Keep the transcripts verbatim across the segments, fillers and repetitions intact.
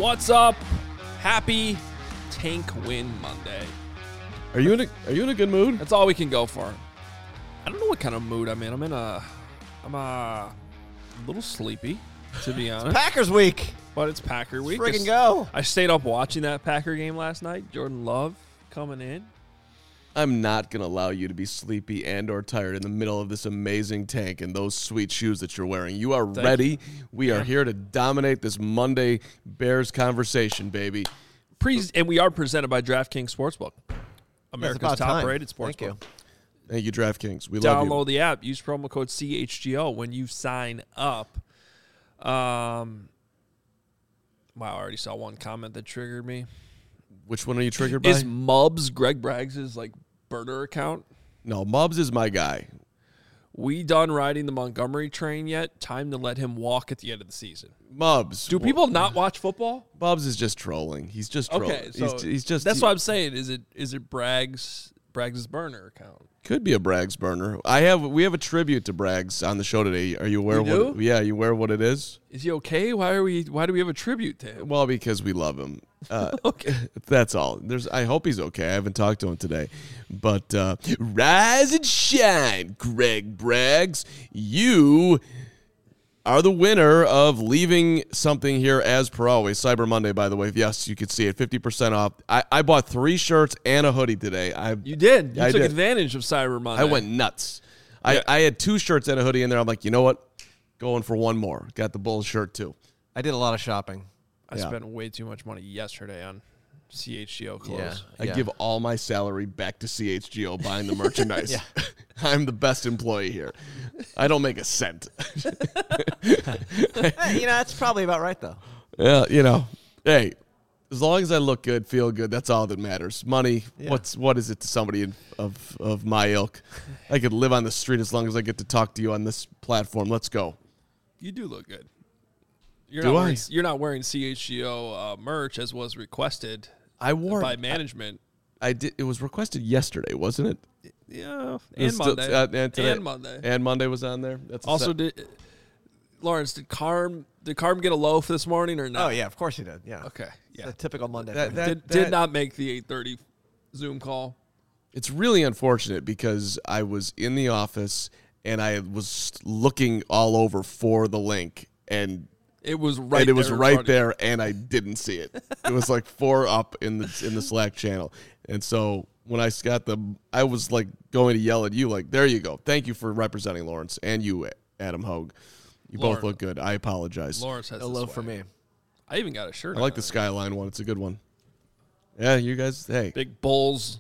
What's up? Happy Tank Win Monday. Are you in a Are you in a good mood? That's all we can go for. I don't know what kind of mood I'm in. I'm in a, I'm a, a little sleepy, to be honest. Packers week. But it's Packer week. Friggin' go. I stayed up watching that Packer game last night. Jordan Love coming in. I'm not going to allow you to be sleepy and or tired in the middle of this amazing tank and those sweet shoes that you're wearing. You are Thank ready. you. We Yeah. are here to dominate this Monday Bears conversation, baby. Pre- and we are presented by DraftKings Sportsbook, America's about time. top-rated sportsbook. Thank you. Thank you, DraftKings. We love you. Download the app. Use promo code C H G O when you sign up. Um, wow, I already saw one comment that triggered me. Which one are you triggered by? Is Mubs Greg Braggs' like burner account? No, Mubs is my guy. We done riding the Montgomery train yet? Time to let him walk at the end of the season. Mubs. Do people not watch football? Mubs is just trolling. He's just trolling. Okay, so he's, he's just that's he, what I'm saying. Is it is it Braggs Braggs' burner account? Could be a Braggs burner. I have we have a tribute to Braggs on the show today. Are you aware We of what do? Yeah, are you aware of what it is? Is he okay? Why are we? Why do we have a tribute to him? Well, because we love him. Uh, Okay. That's all. There's. I hope he's okay. I haven't talked to him today, but uh, rise and shine, Greg Braggs. You are the winner of leaving something here as per always. Cyber Monday, by the way. Yes, you could see it. fifty percent off. I, I bought three shirts and a hoodie today. I You did. You I took did. advantage of Cyber Monday. I went nuts. Yeah. I, I had two shirts and a hoodie in there. I'm like, you know what? Going for one more. Got the Bulls shirt too. I did a lot of shopping. I Yeah. spent way too much money yesterday on C H G O clothes. I Yeah. give all my salary back to C H G O buying the merchandise. Yeah. I'm the best employee here. I don't make a cent. Hey, you know, that's probably about right, though. Yeah, you know, hey, as long as I look good, feel good, that's all that matters. Money, Yeah. what's what is it to somebody in, of of my ilk? I could live on the street as long as I get to talk to you on this platform. Let's go. You do look good. You're Do not I? Wearing, you're not wearing C H G O uh, merch as was requested I wore by management. I, I did. It was requested yesterday, wasn't it? Yeah, It and was still- Monday. uh, and, today, and Monday. And Monday was on there. That's a Also, set- did Lawrence did Carm did Carm get a loaf this morning or not? Oh, yeah, of course he did. Yeah. Okay. It's Yeah. a typical Monday. That- for him. that- Did did not make the eight thirty Zoom call. It's really unfortunate because I was in the office and I was looking all over for the link and It was right. and it was there in right front of you. there and I didn't see it. It was like four up in the in the Slack channel. And so when I got the I was like going to yell at you like, there you go. Thank you for representing Lawrence and you, Adam Hogue. You both Lawrence- look good. I apologize. Lawrence has a the loaf for swag. me. I even got a shirt. I like on the it. Skyline one. It's a good one. Yeah, you guys, hey. Big Bulls,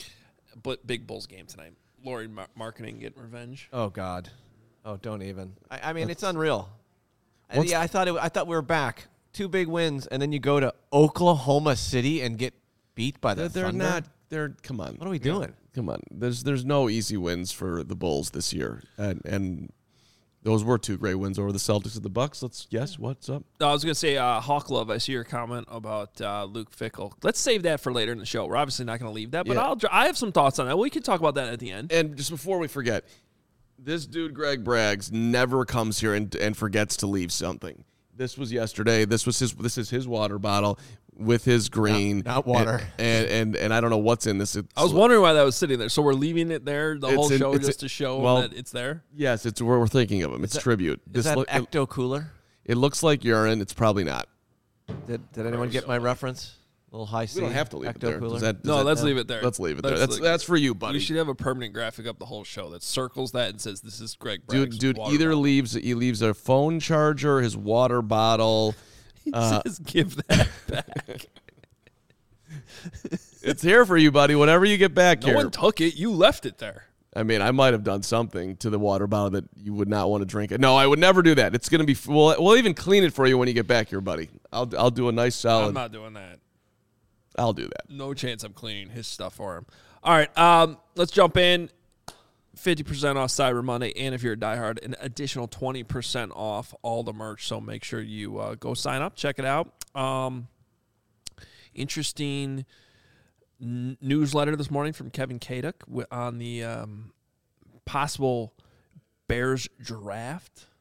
but big Bulls game tonight. Lori mar- marketing getting revenge. Oh, God. Oh, don't even. I, I mean, it's unreal. I, What's- yeah, I thought it, I thought we were back. Two big wins, and then you go to Oklahoma City and get beat by the They're, they're Thunder? not they're come on. What are we doing? Come on. There's there's no easy wins for the Bulls this year. And and those were two great wins over the Celtics and the Bucks. Let's yes, what's up? No, I was going to say, uh, Hawk Love, I see your comment about uh, Luke Fickell. Let's save that for later in the show. We're obviously not going to leave that, but Yeah. I'll, I have some thoughts on that. We can talk about that at the end. And just before we forget, this dude Greg Braggs never comes here and and forgets to leave something. This was yesterday. This was his this is his water bottle with his green. Not- not water. And and, and and I don't know what's in this. It's, I was wondering why that was sitting there. So we're leaving it there the It's whole in- show it's just in- to show well, that it's there? Yes, it's where we're thinking of him. It's that- tribute. Is This that look- it, Ecto Cooler? it looks like urine. It's probably not. Did, did anyone get my reference? A little high C. We don't have to leave Ecto it there. Cooler? Does that, does No, that- let's leave it there. Let's leave it there. Let's That's leave- that's for you, buddy. We should have a permanent graphic up the whole show that circles that and says this is Greg dude, Bragg's dude, water either bottle. leaves he leaves a phone charger, his water bottle. He uh, says give that back. It's here for you, buddy. Whenever you get back No here. one took it. You left it there. I mean, I might have done something to the water bottle that you would not want to drink it. No, I would never do that. It's gonna be. We'll, we'll even clean it for you when you get back here, buddy. I'll I'll do a nice solid. I'm not doing that. I'll do that. No chance I'm cleaning his stuff for him. All right, um, let's jump in. fifty percent off Cyber Monday, and if you're a diehard, an additional twenty percent off all the merch. So make sure you uh, go sign up, check it out. Um, interesting n- newsletter this morning from Kevin Kaduk wi- on the um, possible Bears draft.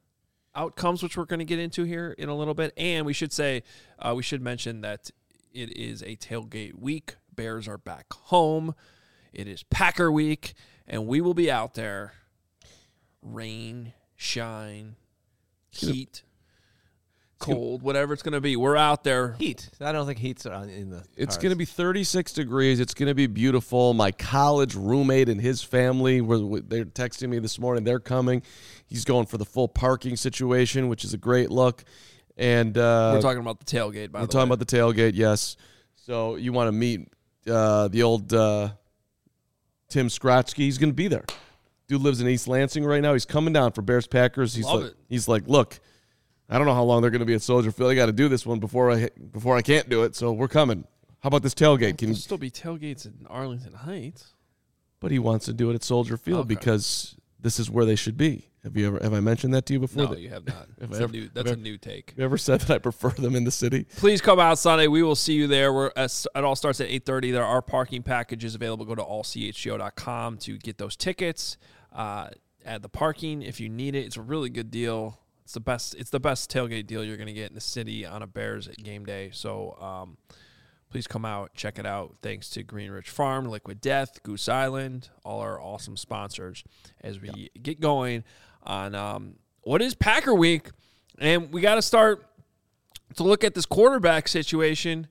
outcomes, which we're going to get into here in a little bit. And we should say, uh, we should mention that it is a tailgate week. Bears are back home. It is Packer week, and we will be out there. Rain, shine, heat, cold, whatever it's going to be. We're out there. Heat. I don't think heat's on in the It's cards. going to be thirty-six degrees. It's going to be beautiful. My college roommate and his family, were they're texting me this morning. They're coming. He's going for the full parking situation, which is a great look. And uh, We're talking about the tailgate, by we're the talking way. about the tailgate, yes. So you want to meet uh, the old uh, Tim Skrotsky. He's going to be there. Dude lives in East Lansing right now. He's coming down for Bears Packers. He's Love like, it. he's like, look, I don't know how long they're going to be at Soldier Field. I got to do this one before I before I can't do it. So we're coming. How about this tailgate? Can There'll you, still be tailgates in Arlington Heights. but he wants to do it at Soldier Field Okay. because this is where they should be. Have you ever have I mentioned that to you before? No, That- you have not. Have That's, I a ever- new, have that's I a ever- new take. Have you ever said that I prefer them in the city? Please come out Sunday. We will see you there. We're at, it all starts at eight thirty. There are parking packages available. Go to all c h g o dot com to get those tickets. Uh, add the parking if you need it. It's a really good deal. It's the best. It's the best tailgate deal you're going to get in the city on a Bears game day. So um, please come out, check it out. Thanks to Greenrich Farm, Liquid Death, Goose Island, all our awesome sponsors as we get going on um, what is Packer Week. And we got to start to look at this quarterback situation.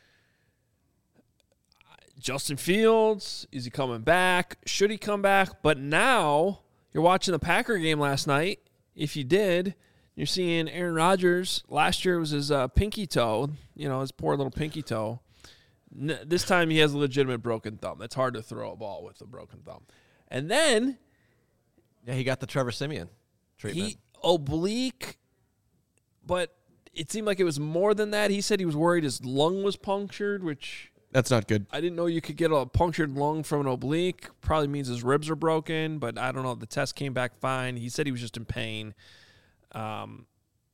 Justin Fields, is he coming back? Should he come back? But now you're watching the Packer game last night. If you did, you're seeing Aaron Rodgers. Last year was his uh, pinky toe, you know, his poor little pinky toe. N- this time he has a legitimate broken thumb. It's hard to throw a ball with a broken thumb. And then Yeah, he got the Trevor Simeon treatment. he oblique, but it seemed like it was more than that. He said he was worried his lung was punctured, which That's not good. I didn't know you could get a punctured lung from an oblique. Probably means his ribs are broken, but I don't know. The test came back fine. He said he was just in pain. Um,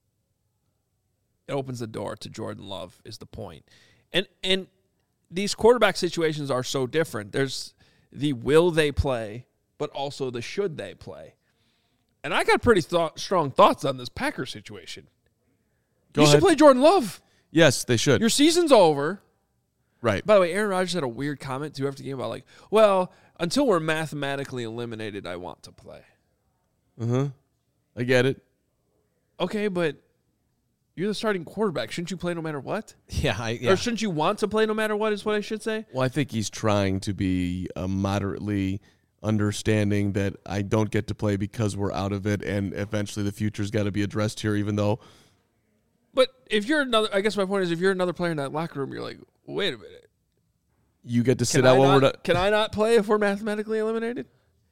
it opens the door to Jordan Love is the point. And and these quarterback situations are so different. There's the will they play, but also the should they play. And I got pretty thought, strong thoughts on this Packer situation. Go you ahead. should play Jordan Love. Yes, they should. Your season's over. right. By the way, Aaron Rodgers had a weird comment too after the game about like, well, until we're mathematically eliminated, I want to play. Uh-huh. I get it. Okay, but you're the starting quarterback. Shouldn't you play no matter what? yeah, I, yeah. Or shouldn't you want to play no matter what is what I should say? Well, I think he's trying to be uh, moderately understanding that I don't get to play because we're out of it, and eventually the future's got to be addressed here, even though But if you're another, I guess my point is if you're another player in that locker room, you're like, wait a minute. you get to sit Can, out I when not, we're done. can I not play if we're mathematically eliminated?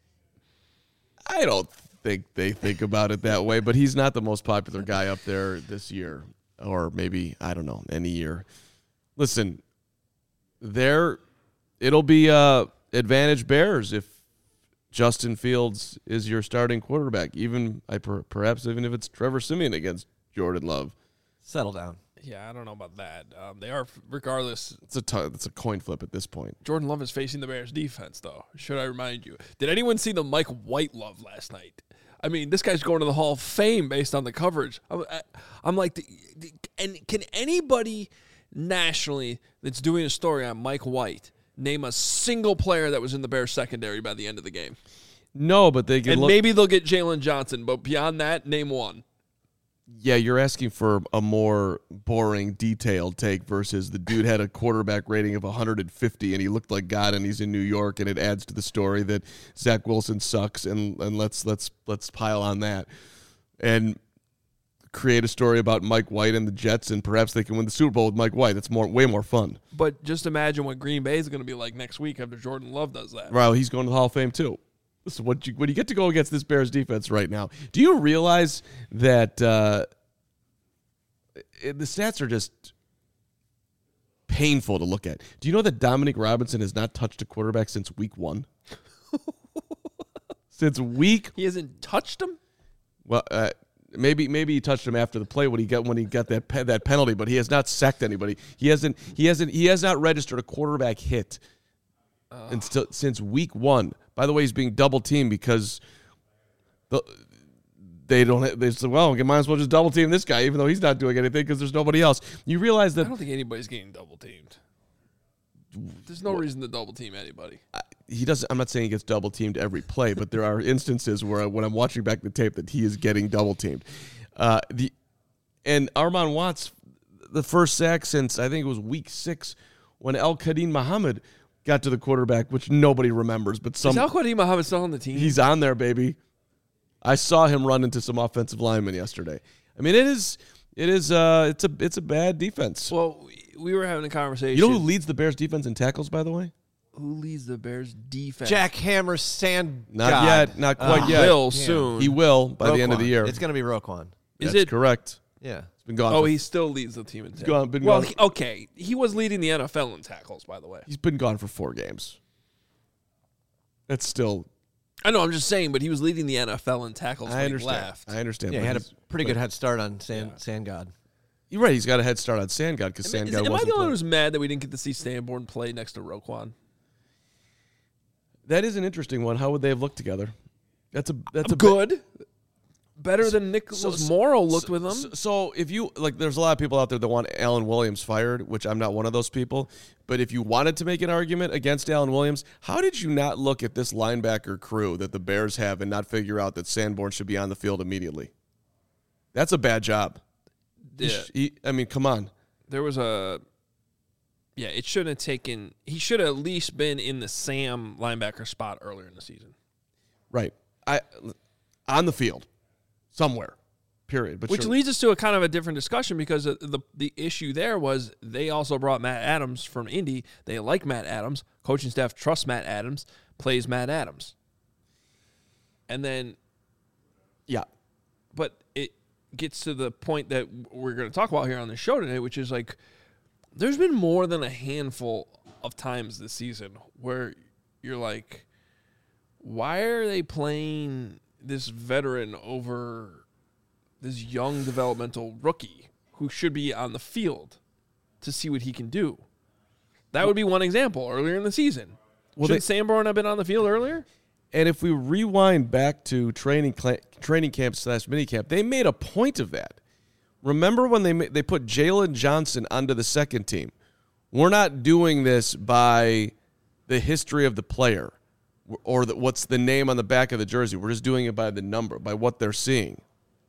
I don't think they think about it that way, but he's not the most popular guy up there this year, or maybe, I don't know, any year. Listen, there, it'll be uh, advantage Bears if Justin Fields is your starting quarterback, even I per, perhaps even if it's Trevor Simeon against Jordan Love. Settle down. Yeah, I don't know about that. Um, they are, regardless, It's a, t- it's a coin flip at this point. Jordan Love is facing the Bears defense, though. Should I remind you? Did anyone see the Mike White love last night? I mean, this guy's going to the Hall of Fame based on the coverage. I'm, I, I'm like, the, the, and can anybody nationally that's doing a story on Mike White name a single player that was in the Bears secondary by the end of the game? No, but they can And look. maybe they'll get Jalen Johnson, but beyond that, name one. Yeah, you're asking for a more boring, detailed take versus the dude had a quarterback rating of one hundred fifty and he looked like God and he's in New York, and it adds to the story that Zach Wilson sucks, and, and let's let's let's pile on that and create a story about Mike White and the Jets, and perhaps they can win the Super Bowl with Mike White. That's more way more fun. But just imagine what Green Bay is going to be like next week after Jordan Love does that. Well, he's going to the Hall of Fame too. Listen, what you, when you get to go against this Bears defense right now, do you realize that uh, it, the stats are just painful to look at? Do you know that Dominic Robinson has not touched a quarterback since week one? Since week, He hasn't touched him? well, uh, maybe maybe he touched him after the play when he got when he got that pe- that penalty, but he has not sacked anybody. He hasn't he hasn't he has not registered a quarterback hit and still, since week one. By the way, he's being double teamed because the they don't. Have, they said, well, we might as well just double team this guy, even though he's not doing anything because there's nobody else. You realize I that don't think anybody's getting double teamed. There's no reason to double team anybody. he doesn't. I'm not saying he gets double teamed every play, but there are instances where when I'm watching back the tape that he is getting double teamed. Uh, the and Armon Watts, the first sack since I think it was week six when El Kadim Muhammad got to the quarterback, which nobody remembers, but some Is Al Qadim Muhammad still on the team? he's on there, baby. I saw him run into some offensive linemen yesterday. I mean, it is, it is, uh, it's a, it's a bad defense. Well, we were having a conversation. You know who leads the Bears defense in tackles, by the way? Who leads the Bears defense? Jack Hammer Sand. Not God. yet, not quite Uh, yet. Will Yeah. soon. He will by the end of the Roquan. year. It's going to be Roquan. Is That's it correct? Yeah. It's been gone. Oh, for, he still leads the team in tackles. gone- been well, gone. he, okay, he was leading the N F L in tackles, by the way. he's been gone for four games. That's still. I know, I'm just saying, but he was leading the N F L in tackles I when understand. he left. I understand. Yeah, but he had a he's- pretty but- good head start on Sand, Yeah. Sand God. You're right. He's got a head start on Sandgod because Am, I- is- Sandgod am I wasn't the only one playing. who's mad that we didn't get to see Sanborn play next to Roquan? That is an interesting one. How would they have looked together? That's a that's a Good. Better than Nicholas so- Morrow looked so, with him. So, so if you like, there's a lot of people out there that want Alan Williams fired, which I'm not one of those people. But if you wanted to make an argument against Alan Williams, how did you not look at this linebacker crew that the Bears have and not figure out that Sanborn should be on the field immediately? That's a bad job. He Yeah. sh- he- I mean, come on. There was a yeah, it shouldn't have taken he should have at least been in the Sam linebacker spot earlier in the season. Right. I on the field somewhere. Period. But Which sure. leads us to a kind of a different discussion because the, the the issue there was they also brought Matt Adams from Indy. They like Matt Adams. Coaching staff trusts Matt Adams, plays Matt Adams. And then yeah. but it gets to the point that we're going to talk about here on the show today, which is like there's been more than a handful of times this season where you're like, why are they playing this veteran over this young developmental rookie who should be on the field to see what he can do? That would be one example earlier in the season. Well, Should they- Sanborn have been on the field earlier? And if we rewind back to training cl- training camp slash minicamp, they made a point of that. Remember when they ma- they put Jalen Johnson onto the second team? We're not doing this by the history of the player or the, what's the name on the back of the jersey. We're just doing it by the number, by what they're seeing.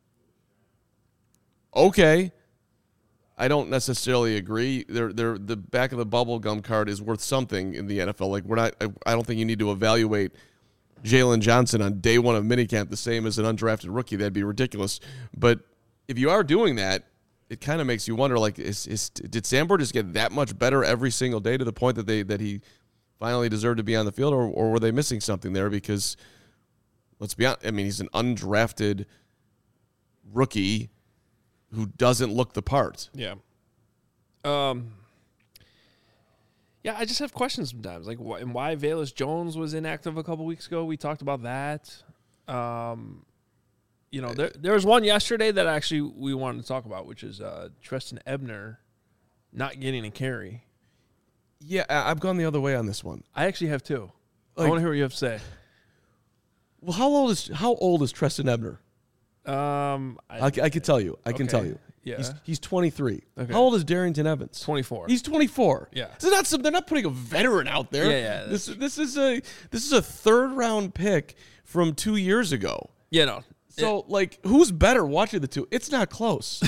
Okay. I don't necessarily agree. They're, they're, the back of the bubble gum card is worth something in the N F L. Like we're not. I, I don't think you need to evaluate Jalen Johnson on day one of minicamp the same as an undrafted rookie. That'd be ridiculous. But if you are doing that, it kind of makes you wonder, like, is, is did Sanborn just get that much better every single day to the point that they that he finally deserved to be on the field, or, or were they missing something there? Because let's be honest, I mean, he's an undrafted rookie who doesn't look the part. Yeah. Um. Yeah, I just have questions sometimes, like wh- and why Velus Jones was inactive a couple weeks ago. We talked about that. Um, you know, there there was one yesterday that actually we wanted to talk about, which is uh, Treston Ebner not getting a carry. Yeah, I- I've gone the other way on this one. I actually have two. I Like- want to hear what you have to say. Well, how old is how old is Treston Ebner? Um, I, I, I can tell you. I can Okay. tell you. Yeah. He's, he's twenty-three. Okay. How old is Darrington Evans? twenty-four. He's twenty-four. Yeah. They're not some, they're not putting a veteran out there. Yeah, yeah, This this is a this is a third round pick from two years ago. yeah, no. So like, who's better watching the two? It's not close.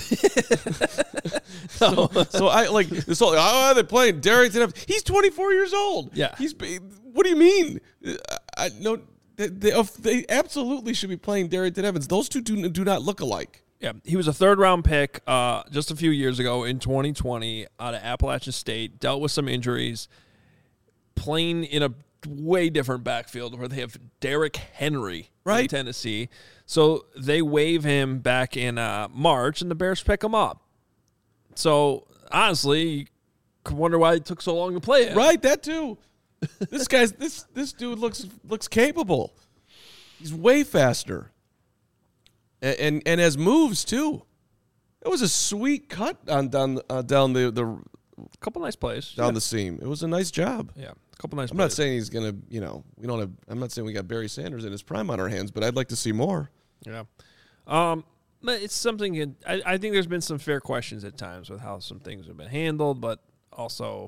so, so I like this whole. Oh, they're playing Darrington Evans. He's twenty-four years old. Yeah. He's. What do you mean? I, I no. They, they, they absolutely should be playing Darrington Evans. Those two do, do not look alike. Yeah, he was a third round pick uh, just a few years ago in twenty twenty out of Appalachian State. Dealt with some injuries, playing in a way different backfield where they have Derrick Henry from Right. Tennessee. So they waive him back in uh, March, and the Bears pick him up. So honestly, you could wonder why it took so long to play him. Right, that too. This guy's this this dude looks looks capable. He's way faster. And and, and has moves too. It was a sweet cut on down uh, down the, the A couple nice plays. down yeah. the seam. It was a nice job. yeah, a couple nice I'm plays. not saying he's gonna, you know, we don't have. I'm not saying we got Barry Sanders in his prime on our hands, but I'd like to see more. Yeah. Um, but it's something. It, I, I think there's been some fair questions at times with how some things have been handled, but also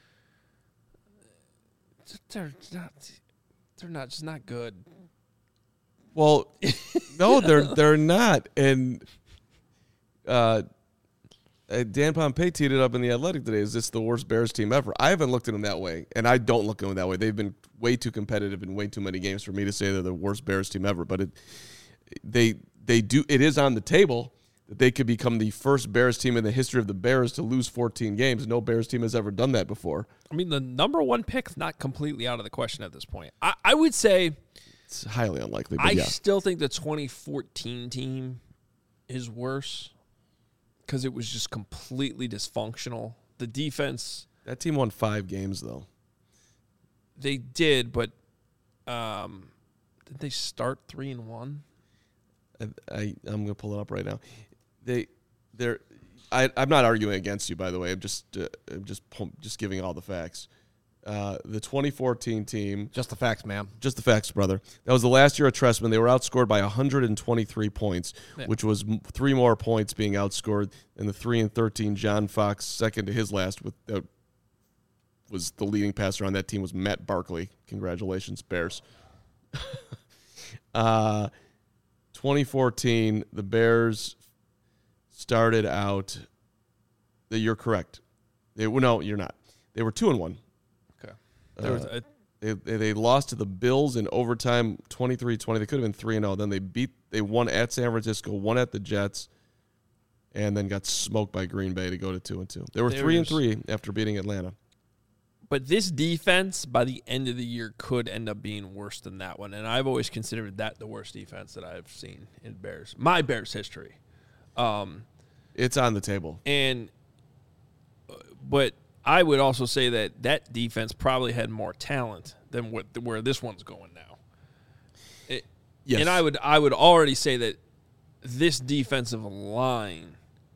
they're not. They're not just not good. Well, no, they're they're not. And uh, uh, Dan Pompei teed it up in The Athletic today. Is this the worst Bears team ever? I haven't looked at them that way, and I don't look at them that way. They've been way too competitive in way too many games for me to say they're the worst Bears team ever. But it, they they do. It is on the table that they could become the first Bears team in the history of the Bears to lose fourteen games. No Bears team has ever done that before. I mean, the number one pick's not completely out of the question at this point. I, I would say it's highly unlikely. But I yeah. still think the twenty fourteen team is worse because it was just completely dysfunctional. The defense. That team won five games, though. They did, but um, did they start three and one? I, I I'm gonna pull it up right now. They they're I I'm not arguing against you, by the way. I'm just uh, I'm just just giving all the facts. Uh, the twenty fourteen team, Just the facts, ma'am. just the facts, brother. That was the last year of Trestman. They were outscored by one hundred twenty-three points, Yeah. which was m- three more points being outscored than the three and thirteen John Fox, second to his last. With uh, was the leading passer on that team was Matt Barkley. Congratulations, Bears. uh, twenty fourteen, the Bears started out. You're correct. They well, no, you're not. They were two and one. Okay. There was Uh, a, They, they lost to the Bills in overtime, twenty-three twenty. They could have been three and oh. Then they beat. They won at San Francisco, won at the Jets, and then got smoked by Green Bay to go to two and two. They were There three it and is. three after beating Atlanta. but this defense, by the end of the year, could end up being worse than that one. And I've always considered that the worst defense that I've seen in Bears, my Bears history. Um, It's on the table. and, uh, but I would also say that that defense probably had more talent than what where this one's going now. It, Yes. And I would I would already say that this defensive line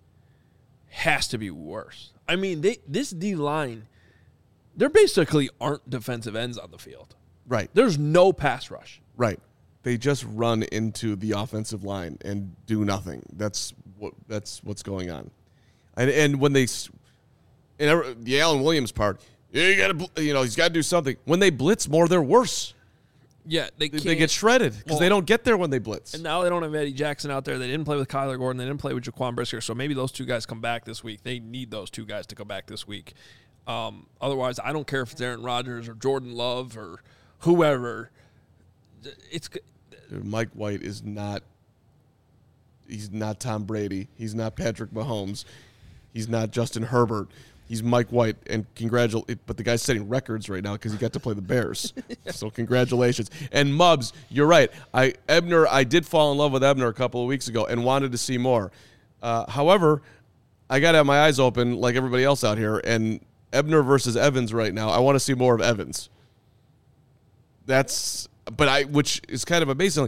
has to be worse. I mean, they this D line, there basically aren't defensive ends on the field. Right, There's no pass rush. right. They just run into the offensive line and do nothing. That's what that's what's going on. And and when they, s- and every- the Allen Williams part, yeah, you got to, you know, he's got to do something. When they blitz more, they're worse. Yeah, they They, can't. they get shredded because Well, they don't get there when they blitz. And now they don't have Eddie Jackson out there. They didn't play with Kyler Gordon. They didn't play with Jaquan Brisker. So maybe those two guys come back this week. They need those two guys to come back this week. Um, otherwise, I don't care if it's Aaron Rodgers or Jordan Love or whoever. It's Dude, Mike White is not. He's not Tom Brady. He's not Patrick Mahomes. He's not Justin Herbert. He's Mike White, and congratulate. But the guy's setting records right now because he got to play the Bears. So congratulations. And Mubs, you're right. I Ebner. I did fall in love with Ebner a couple of weeks ago and wanted to see more. Uh, however, I got to have my eyes open like everybody else out here. And Ebner versus Evans right now. I want to see more of Evans. That's. But I, which is kind of amazing.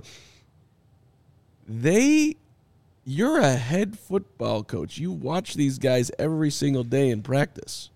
They, you're a head football coach. You watch these guys every single day in practice.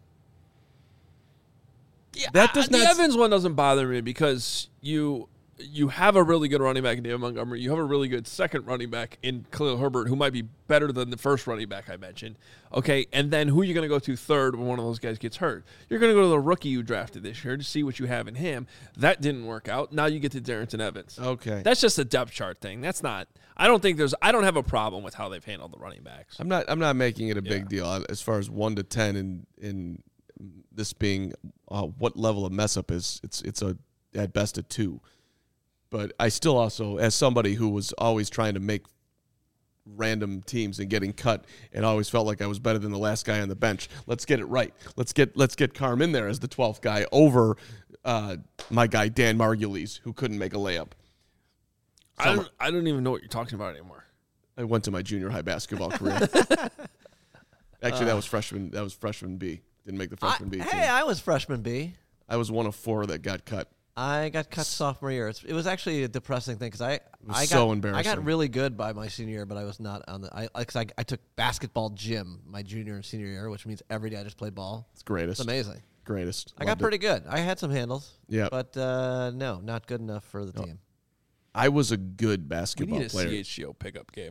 yeah, That does I- the not- Evans one doesn't bother me because you you have a really good running back in David Montgomery. You have a really good second running back in Khalil Herbert, who might be better than the first running back I mentioned. Okay, and then who are you going to go to third when one of those guys gets hurt? You're going to go to the rookie you drafted this year to see what you have in him. That didn't work out. Now you get to Darrington Evans. Okay. That's just a depth chart thing. That's not. I don't think there's. I don't have a problem with how they've handled the running backs. I'm not. I'm not making it a big Yeah. deal as far as one to ten, and in this being uh, what level of mess up is. It's it's a at best a two, but I still also, as somebody who was always trying to make random teams and getting cut, and always felt like I was better than the last guy on the bench. Let's get it right. Let's get let's get Carm in there as the twelfth guy over uh, my guy Dan Margulies, who couldn't make a layup. I don't. I don't even know what you're talking about anymore. I went to my junior high basketball career. Actually, that was freshman. That was freshman B. Didn't make the I, freshman B team. hey, I was freshman B. I was one of four that got cut. I got cut sophomore year. It's, it was actually a depressing thing because I, was I got, so I embarrassing. got really good by my senior year, but I was not on the. I because I, I took basketball gym my junior and senior year, which means every day I just played ball. It's greatest. It's amazing. Greatest. I got Loved it. pretty good. I had some handles. Yeah. But uh, no, not good enough for the No. team. I was a good We basketball need a player. C H G O pickup game.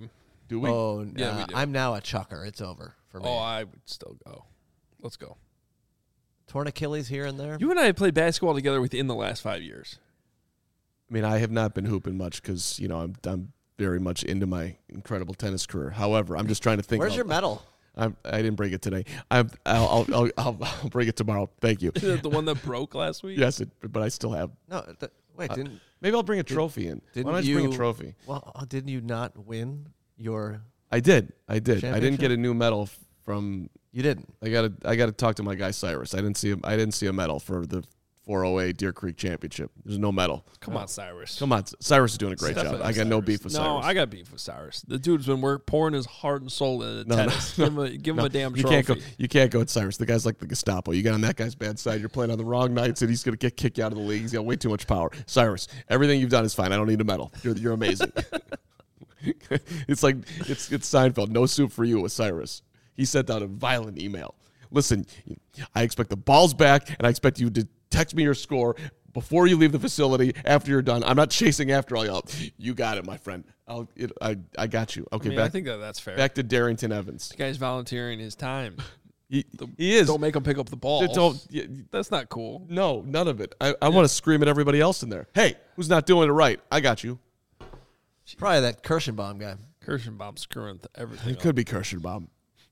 Do we? Oh, Yeah, uh, we do. I'm now a chucker. It's over for me. Oh, I would still go. Let's go. Torn Achilles here and there. You and I have played basketball together within the last five years. I mean, I have not been hooping much because, you know, I'm I'm very much into my incredible tennis career. However, I'm just trying to think. Where's about, your medal? I'm, I didn't bring it today. I'm, I'll, I'll, I'll, I'll, I'll bring it tomorrow. Thank you. The one that broke last week? Yes, it, but I still have. No, th- wait, didn't Maybe I'll bring a trophy in. Why didn't don't I just you bring a trophy? Well, uh, didn't you not win your? I did. I did. I didn't Championship? get a new medal f- from. You didn't. I got to. I got to talk to my guy Cyrus. I didn't see. A, I didn't see a medal for the four oh eight Deer Creek Championship. There's no medal. Come on, Cyrus. Come on, Cyrus is doing a great Step job. it up, I got no Cyrus. beef with No, Cyrus. I got beef with Cyrus. The dude's been work, pouring his heart and soul into No, no, tennis. no. give him a, give him No, a damn you trophy. can't go. You can't go with Cyrus. The guy's like the Gestapo. You get on that guy's bad side. You're playing on the wrong nights, and he's gonna get kicked out of the league. He's got way too much power. Cyrus, everything you've done is fine. I don't need a medal. You're you're amazing. It's like it's it's Seinfeld. No soup for you with Cyrus. He sent out a violent email. Listen, I expect the balls back, and I expect you to text me your score before you leave the facility. After you're done, I'm not chasing after all y'all. You got it, my friend. I'll, it, I I got you. Okay, I, mean, back I think that that's fair. back to Darrington Evans. The guy's volunteering his time. He, he is. Don't make him pick up the ball. Don't- yeah, That's not cool. No, none of it. I, I want to scream at everybody else in there. Hey, who's not doing it right? I got you. Probably that Kirschenbaum guy. Kirschenbaum's screwing th- everything It up. could be Kirschenbaum.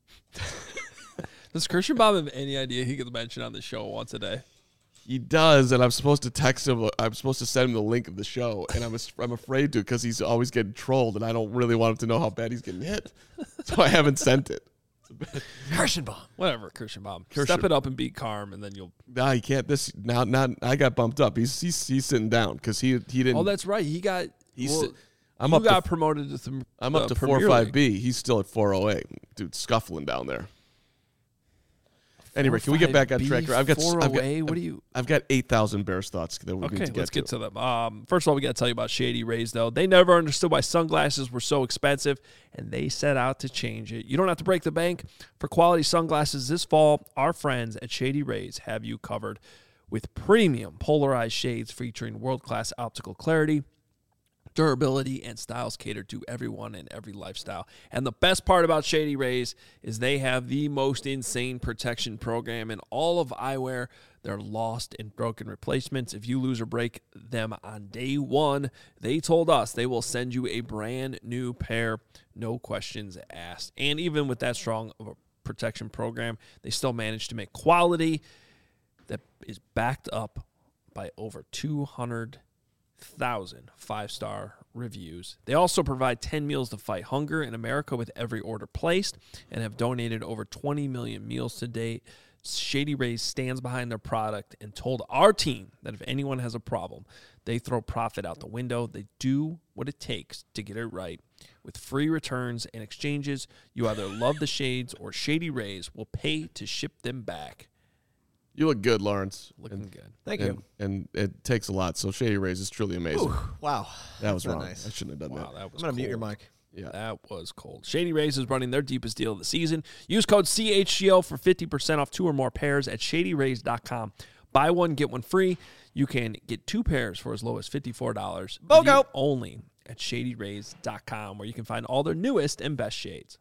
Does Kirschenbaum have any idea he gets mentioned on the show once a day? He does, and I'm supposed to text him. I'm supposed to send him the link of the show, and I'm I'm afraid to because he's always getting trolled, and I don't really want him to know how bad he's getting hit. So I haven't sent it. Kirschenbaum. Whatever, Kirschenbaum. Kirschen- Step it up and be calm, and then you'll. Nah, he can't. This now, now I got bumped up. He's he's, he's sitting down because he he didn't. Oh, that's right. He got. He's well, si- I'm you up to got f- promoted to. Th- I'm up uh, to Premier four five League. B. He's still at four oh eight. Dude, scuffling down there. Anyway, can we get back on track? I've got I've got, four oh eight. What do you? I've got eight thousand Bears thoughts that we Okay, need to get let's to. get to them. Um, first of all, we got to tell you about Shady Rays, though. They never understood why sunglasses were so expensive, and they set out to change it. You don't have to break the bank. For quality sunglasses this fall, our friends at Shady Rays have you covered with premium polarized shades featuring world-class optical clarity, durability, and styles catered to everyone and every lifestyle. And the best part about Shady Rays is they have the most insane protection program in all of eyewear. They're lost and broken replacements. If you lose or break them on day one, they told us they will send you a brand new pair, no questions asked. And even with that strong of a protection program, they still manage to make quality that is backed up by over two hundred thousand five-star reviews. They also provide ten meals to fight hunger in America with every order placed and have donated over twenty million meals to date. Shady Rays stands behind their product and told our team that if anyone has a problem, they throw profit out the window. They do what it takes to get it right. With free returns and exchanges, you either love the shades or Shady Rays will pay to ship them back. You look good, Lawrence. Looking and, good. Thank and, you. And it takes a lot. So Shady Rays is truly amazing. Ooh, wow. that was That's wrong. nice. I shouldn't have done Wow, that. that I'm was going to mute your cold. mic. Yeah. That was cold. Shady Rays is running their deepest deal of the season. Use code C H G O for fifty percent off two or more pairs at shady rays dot com. Buy one, get one free. You can get two pairs for as low as fifty-four dollars. BOGO. Only at shady rays dot com, where you can find all their newest and best shades.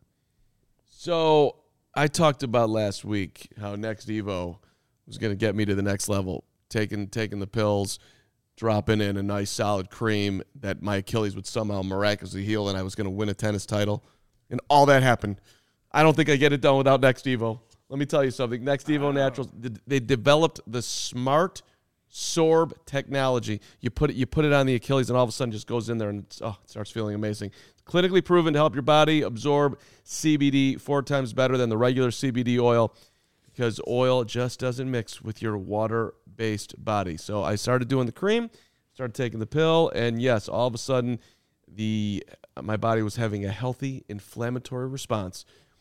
So I talked about last week how Next Evo was going to get me to the next level, taking taking the pills, dropping in a nice solid cream that my Achilles would somehow miraculously heal, and I was going to win a tennis title. And all that happened. I don't think I get it done without Next Evo. Let me tell you something. Next Evo Naturals, they developed the smart sorb technology. You put it, you put it on the Achilles, and all of a sudden just goes in there and it's, oh, it starts feeling amazing. Clinically proven to help your body absorb C B D four times better than the regular C B D oil, because oil just doesn't mix with your water-based body. So I started doing the cream, started taking the pill, and yes, all of a sudden, the my body was having a healthy inflammatory response.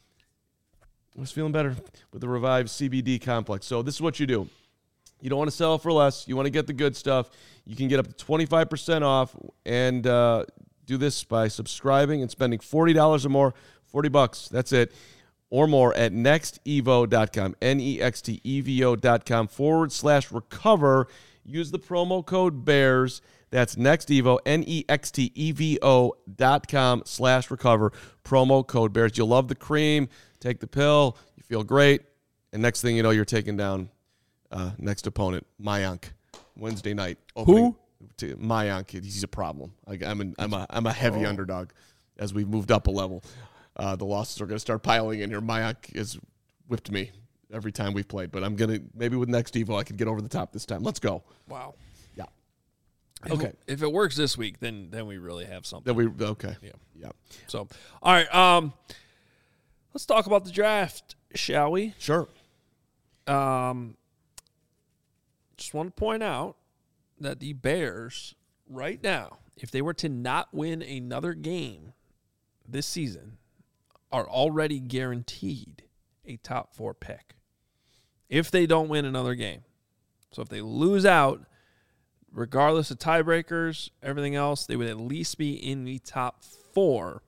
I was feeling better with the revived C B D complex. So this is what you do. You don't want to sell for less. You want to get the good stuff. You can get up to twenty-five percent off, and uh, do this by subscribing and spending forty dollars or more, forty bucks. That's it. Or more at nextevo dot com, N E X T E V O dot com forward slash recover. use the promo code BEARS. That's NextEvo, N E X T E V O dot com slash recover. Promo code BEARS. You'll love the cream. Take the pill. You feel great. And next thing you know, you're taking down uh, next opponent, Mayank, Wednesday night. Who? To Mayank. He's a problem. I, I'm, an, I'm, a, I'm a heavy oh. underdog as we've moved up a level. Uh, the losses are going to start piling in here. Mayank has whipped me every time we've played, but I'm going to, maybe with next Evo, I can get over the top this time. Let's go. Wow. Yeah. If Okay. It, if it works this week, then then we really have something. Then we okay. Yeah. Yeah. So, all right. Um, let's talk about the draft, shall we? Sure. Um, just want to point out that the Bears, right now, if they were to not win another game this season, are already guaranteed a top four pick. If they don't win another game. So if they lose out, regardless of tiebreakers, everything else, they would at least be in the top four.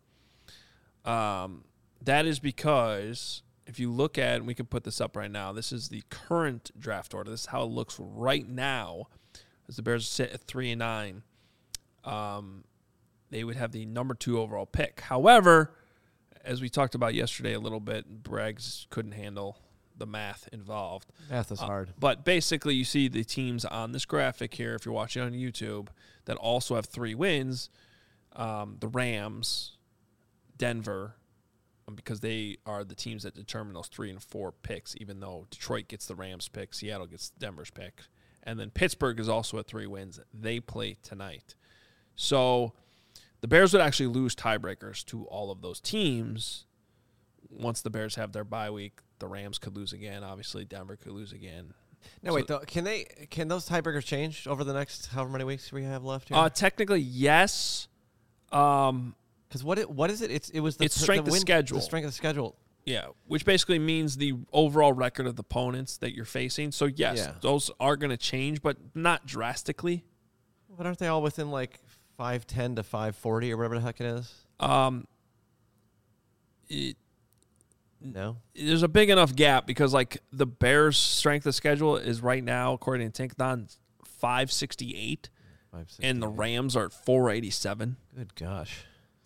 Um, that is because if you look at, and we can put this up right now, this is the current draft order. This is how it looks right now as the Bears sit at three and nine. Um, they would have the number two overall pick. However, as we talked about yesterday a little bit, Braggs couldn't handle the math involved. Math is uh, hard. But basically, you see the teams on this graphic here, if you're watching on YouTube, that also have three wins. Um, the Rams, Denver, um, because they are the teams that determine those three and four picks, even though Detroit gets the Rams pick, Seattle gets Denver's pick. And then Pittsburgh is also at three wins. They play tonight. So the Bears would actually lose tiebreakers to all of those teams. Once the Bears have their bye week, the Rams could lose again. Obviously, Denver could lose again. No, so, wait, though, can they? Can those tiebreakers change over the next however many weeks we have left here? Uh, technically, yes. Um, Because what it, what is it? It's it was the It's strength the of win, schedule. The strength of schedule. yeah, which basically means the overall record of the opponents that you're facing. So, yes, Yeah. those are going to change, but not drastically. But aren't they all within like five ten to five forty or whatever the heck it is? Um, it, No. there's a big enough gap because, like, the Bears' strength of schedule is right now, according to Tankathon, five sixty-eight, and the Rams are at four eighty-seven. Good gosh.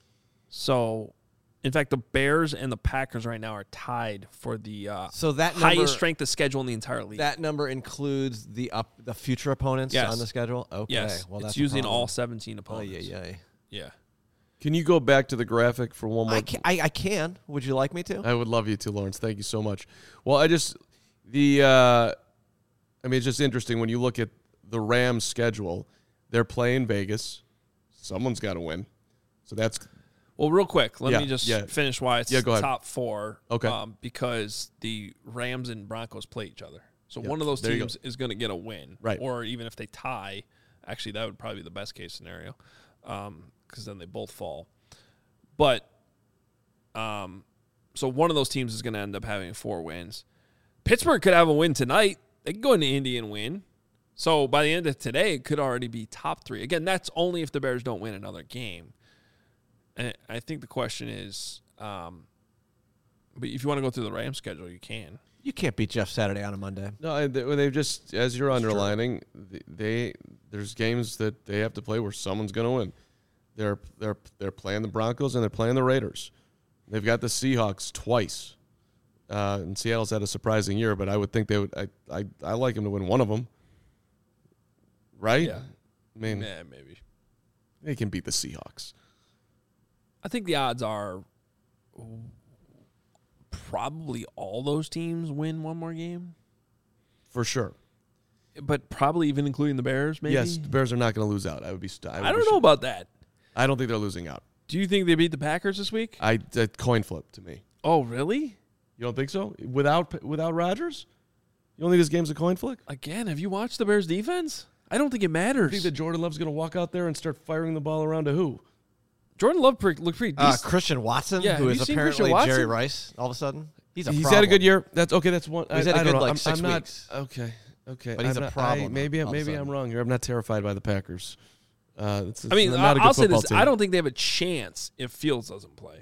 So, in fact, the Bears and the Packers right now are tied for the uh, So that number, highest strength of schedule in the entire league. that number includes the up the future opponents Yes. on the schedule. Okay. yes, Well, it's that's using a all problem. seventeen Oh opponents. yeah, yeah. yeah. Can you go back to the graphic for one more? I can, I, I can. Would you like me to? I would love you to, Lawrence. Thank you so much. Well, I just the uh, I mean, it's just interesting when you look at the Rams' schedule. They're playing Vegas. Someone's got to win. So that's Well, real quick, let Yeah, me just yeah. finish why it's Yeah, go ahead. top four. Okay. Um, because the Rams and Broncos play each other. So Yep, one of those there you teams is going to get a win. Right. Or even if they tie, actually, that would probably be the best case scenario because then they both fall. But um, so one of those teams is going to end up having four wins. Pittsburgh could have a win tonight. They could go into Indy and win. So by the end of today, it could already be top three. Again, that's only if the Bears don't win another game. And I think the question is, um, but if you want to go through the Rams schedule, you can. You can't beat Jeff Saturday on a Monday. no. and they- They've just as you're underlining, they, they there's games that they have to play where someone's going to win. They're they're they're playing the Broncos and they're playing the Raiders. They've got the Seahawks twice. Uh, and Seattle's had a surprising year, but I would think they would. I I, I like them to win one of them. Right? Yeah. I mean, Yeah, maybe. they can beat the Seahawks. I think the odds are probably all those teams win one more game, For sure. but probably even including the Bears, maybe? Yes, the Bears are not going to lose out. I would be. St- I, would I be don't know sure. about that. I don't think they're losing out. Do you think they beat the Packers this week? I a coin flip to me. Oh, really? You don't think so? Without without Rodgers, you don't think this game's a coin flip? Again, have you watched the Bears defense? I don't think it matters. You think that Jordan Love's going to walk out there and start firing the ball around to who? Jordan Love pre- looked pretty Uh, decent. Christian Watson, Yeah, who have is you seen apparently Christian Jerry Watson? Rice, all of a sudden. He's a He's problem. had a good year. That's okay. That's one. He's I, had a I good, don't know. like, I'm, six I'm not, weeks. Okay. Okay. But he's I'm a not- problem I, maybe all of a maybe I'm sudden. wrll here. I'm not terrified by the Packers. Uh, it's, it's I mean, not a good I'll say football this. team. I don't think they have a chance if Fields doesn't play.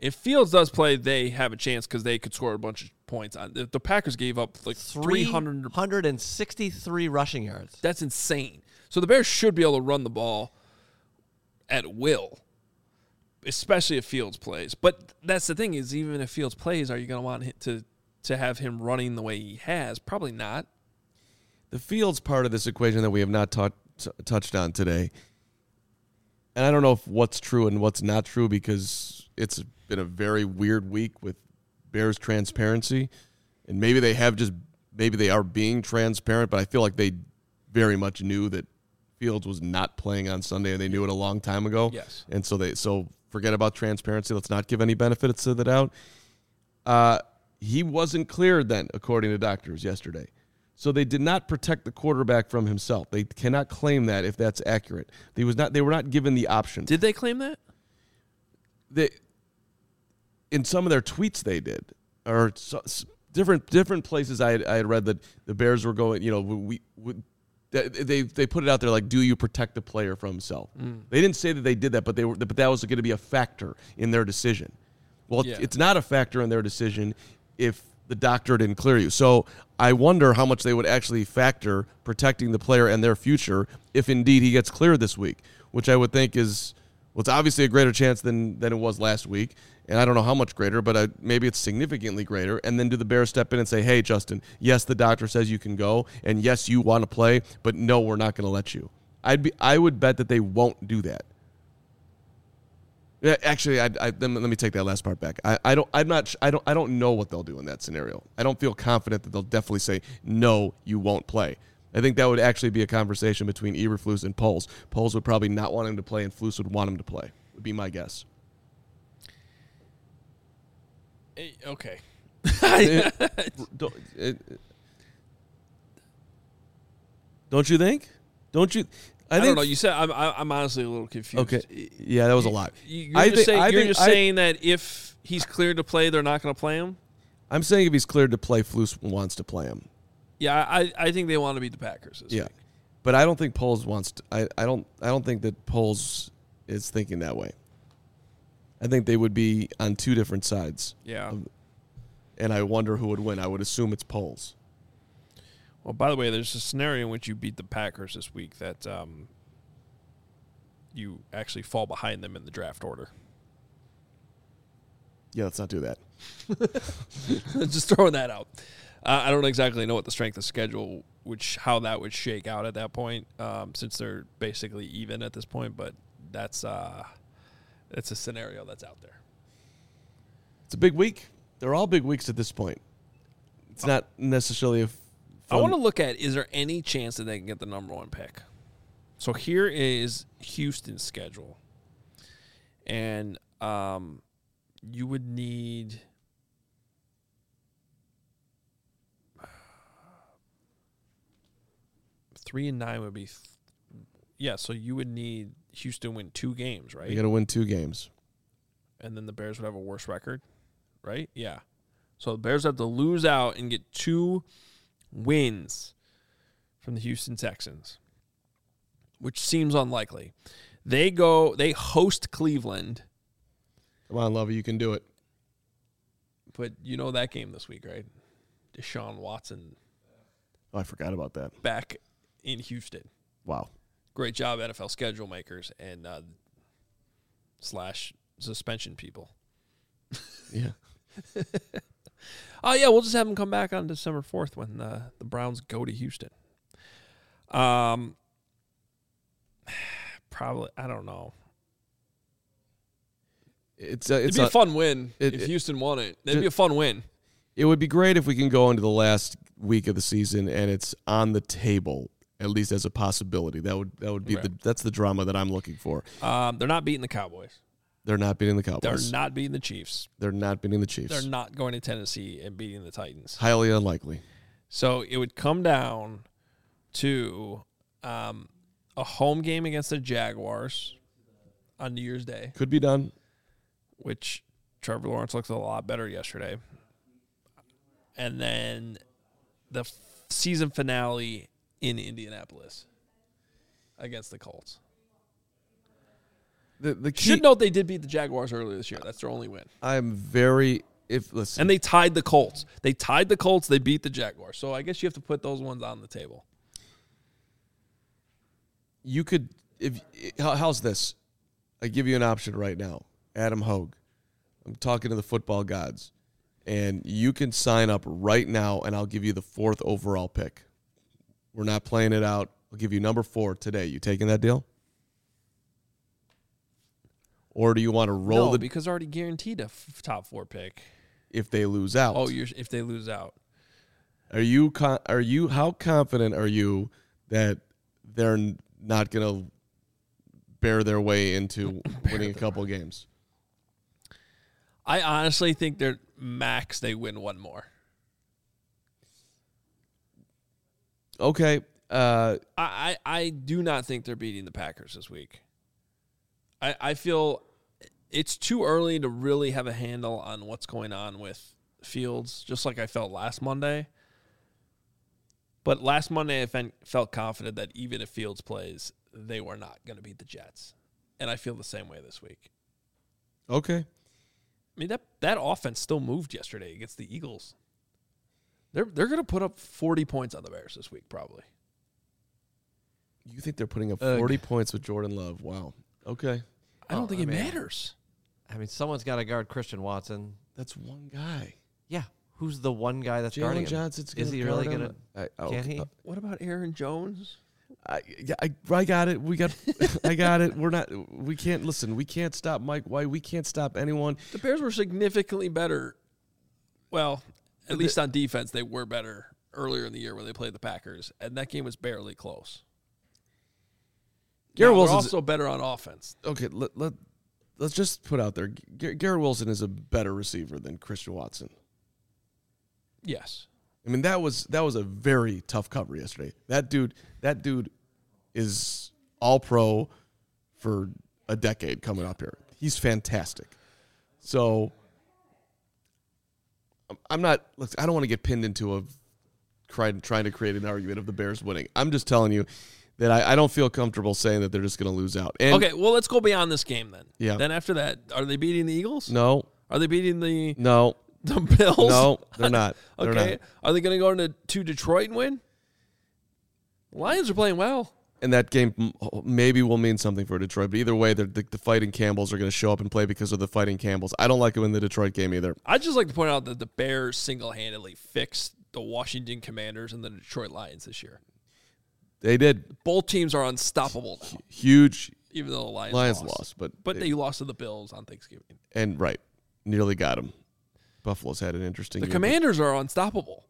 If Fields does play, they have a chance because they could score a bunch of points. On the, the Packers gave up like three hundred sixty-three rushing yards. That's insane. So the Bears should be able to run the ball at will, especially if Fields plays. But that's the thing is, even if Fields plays, are you going to want him to to have him running the way he has? Probably not. The Fields part of this equation that we have not ta- t- touched on today, and I don't know if what's true and what's not true because it's been a very weird week with Bears transparency, and maybe they have just maybe they are being transparent, but I feel like they very much knew that Fields was not playing on Sunday, and they knew it a long time ago. Yes, and so they so forget about transparency. Let's not give any benefits to the doubt. Uh, he wasn't cleared then, according to doctors yesterday. So they did not protect the quarterback from himself. They cannot claim that if that's accurate. They was not. They were not given the option. Did they claim that? They, in some of their tweets, they did, or so, different different places. I had, I had read that the Bears were going. You know, we, we they they put it out there like, do you protect the player from himself? Mm. They didn't say that they did that, but they were. But that was going to be a factor in their decision. Well, yeah. It's not a factor in their decision if the doctor didn't clear you. So I wonder how much they would actually factor protecting the player and their future if indeed he gets cleared this week, which I would think is, well, it's obviously a greater chance than, than it was last week. And I don't know how much greater, but I, maybe it's significantly greater. And then do the Bears step in and say, hey, Justin, yes, the doctor says you can go, and yes, you want to play, but no, we're not going to let you. I'd be, I would bet that they won't do that. Yeah, actually, I, I, let me take that last part back. I, I don't. I'm not. I don't. I don't know what they'll do in that scenario. I don't feel confident that they'll definitely say no. You won't play. I think that would actually be a conversation between Eberflus and Poles. Poles would probably not want him to play, and Flus would want him to play. Would be my guess. Okay. don't, it, don't you think? Don't you? I, I think don't know. You said I'm. I'm honestly a little confused. Okay. Yeah, that was a lot. You're just, think, saying, you're think, just I, saying that if he's cleared to play, they're not going to play him. I'm saying if he's cleared to play, Flus wants to play him. Yeah, I, I think they want to beat the Packers this yeah. week. But I don't think Poles wants to. I, I don't. I don't think that Poles is thinking that way. I think they would be on two different sides. Yeah. Of, and I wonder who would win. I would assume it's Poles. Well, by the way, there's a scenario in which you beat the Packers this week that um, you actually fall behind them in the draft order. Yeah, let's not do that. Just throwing that out. Uh, I don't exactly know what the strength of schedule, which how that would shake out at that point, um, since they're basically even at this point. But that's uh, that's a scenario that's out there. It's a big week. They're all big weeks at this point. It's not necessarily a. I want to look at, is there any chance that they can get the number one pick? So here is Houston's schedule. And um, you would need three and nine would be, th- yeah, so you would need Houston win two games, right? You got to win two games. And then the Bears would have a worse record, right? Yeah. So the Bears have to lose out and get two wins from the Houston Texans, which seems unlikely. They go, they host Cleveland. Come on, Lovey, you can do it. But you know that game this week, right? Deshaun Watson. Oh, I forgot about that. Back in Houston. Wow. Great job, N F L schedule makers and uh, slash suspension people. Yeah. Oh, yeah, we'll just have them come back on December fourth when uh, the Browns go to Houston. Um, Probably, I don't know. It's a, it's It'd be a, a fun win it, if it, Houston won it. It'd be a fun win. It would be great if we can go into the last week of the season and it's on the table, at least as a possibility. That would that would be right. the that's the drama that I'm looking for. Um, they're not beating the Cowboys. They're not beating the Cowboys. They're not beating the Chiefs. They're not beating the Chiefs. They're not going to Tennessee and beating the Titans. Highly unlikely. So it would come down to um, a home game against the Jaguars on New Year's Day. Could be done. Which Trevor Lawrence looked a lot better yesterday. And then the f- season finale in Indianapolis against the Colts. the the key. Should note they did beat the Jaguars earlier this year. That's their only win. I'm very if listen. And they tied the Colts. They tied the Colts. They beat the Jaguars. So I guess you have to put those ones on the table. You could if how, how's this? I give you an option right now, Adam Hogue. I'm talking to the football gods, and you can sign up right now, and I'll give you the fourth overall pick. We're not playing it out. I'll give you number four today. You taking that deal? Or do you want to roll no, the because already guaranteed a f- top four pick. if they lose out? Oh, you're if they lose out. Are you con- are you how confident are you that they're n- not going to bear their way into winning a couple games? I honestly think they're max they win one more. Okay. Uh, I, I, I do not think they're beating the Packers this week. I, I feel it's too early to really have a handle on what's going on with Fields, just like I felt last Monday. But last Monday I fe- felt confident that even if Fields plays, they were not going to beat the Jets. And I feel the same way this week. okay. I mean, that, that offense still moved yesterday against the Eagles. They're they're going to put up forty points on the Bears this week, probably. You think they're putting up Ugh. forty points with Jordan Love? Wow. Okay. I don't Oh, think I it mean- matters. I mean, someone's got to guard Christian Watson. That's one guy. Yeah. Who's the one guy that's guarding Jalen him? Johnson's Is going to he really going to? I, oh, Can he? uh, What about Aaron Jones? I, yeah, I, I got it. We got. I got it. We're not. We can't listen. We can't stop Mike White. We can't stop anyone. The Bears were significantly better. Well, at least on defense, they were better earlier in the year when they played the Packers, and that game was barely close. Garrett Now, they're Wilson's also better on offense. okay. Let, let let's just put out there. Gar- Garrett Wilson is a better receiver than Christian Watson. Yes. I mean, that was that was a very tough cover yesterday. That dude, that dude is all pro for a decade coming up here. He's fantastic. So I'm- I'm not. Look, I don't want to get pinned into a trying trying to create an argument of the Bears winning. I'm just telling you that I, I don't feel comfortable saying that they're just going to lose out. And Okay, well, let's go beyond this game then. Yeah. Then after that, are they beating the Eagles? No, Are they beating the, no, the Bills? no, they're not. They're Okay. not. Are they going to go into to Detroit and win? Lions are playing well. And that game m- maybe will mean something for Detroit. But either way, the, the, the Fighting Campbells are going to show up and play because of the Fighting Campbells. I don't like them in the Detroit game either. I'd just like to point out that the Bears single-handedly fixed the Washington Commanders and the Detroit Lions this year. They did. Both teams are unstoppable now, Huge even though the Lions, Lions lost. lost, but But they lost to the Bills on Thanksgiving. and right, nearly got them. Buffalo's had an interesting The year. Commanders are unstoppable.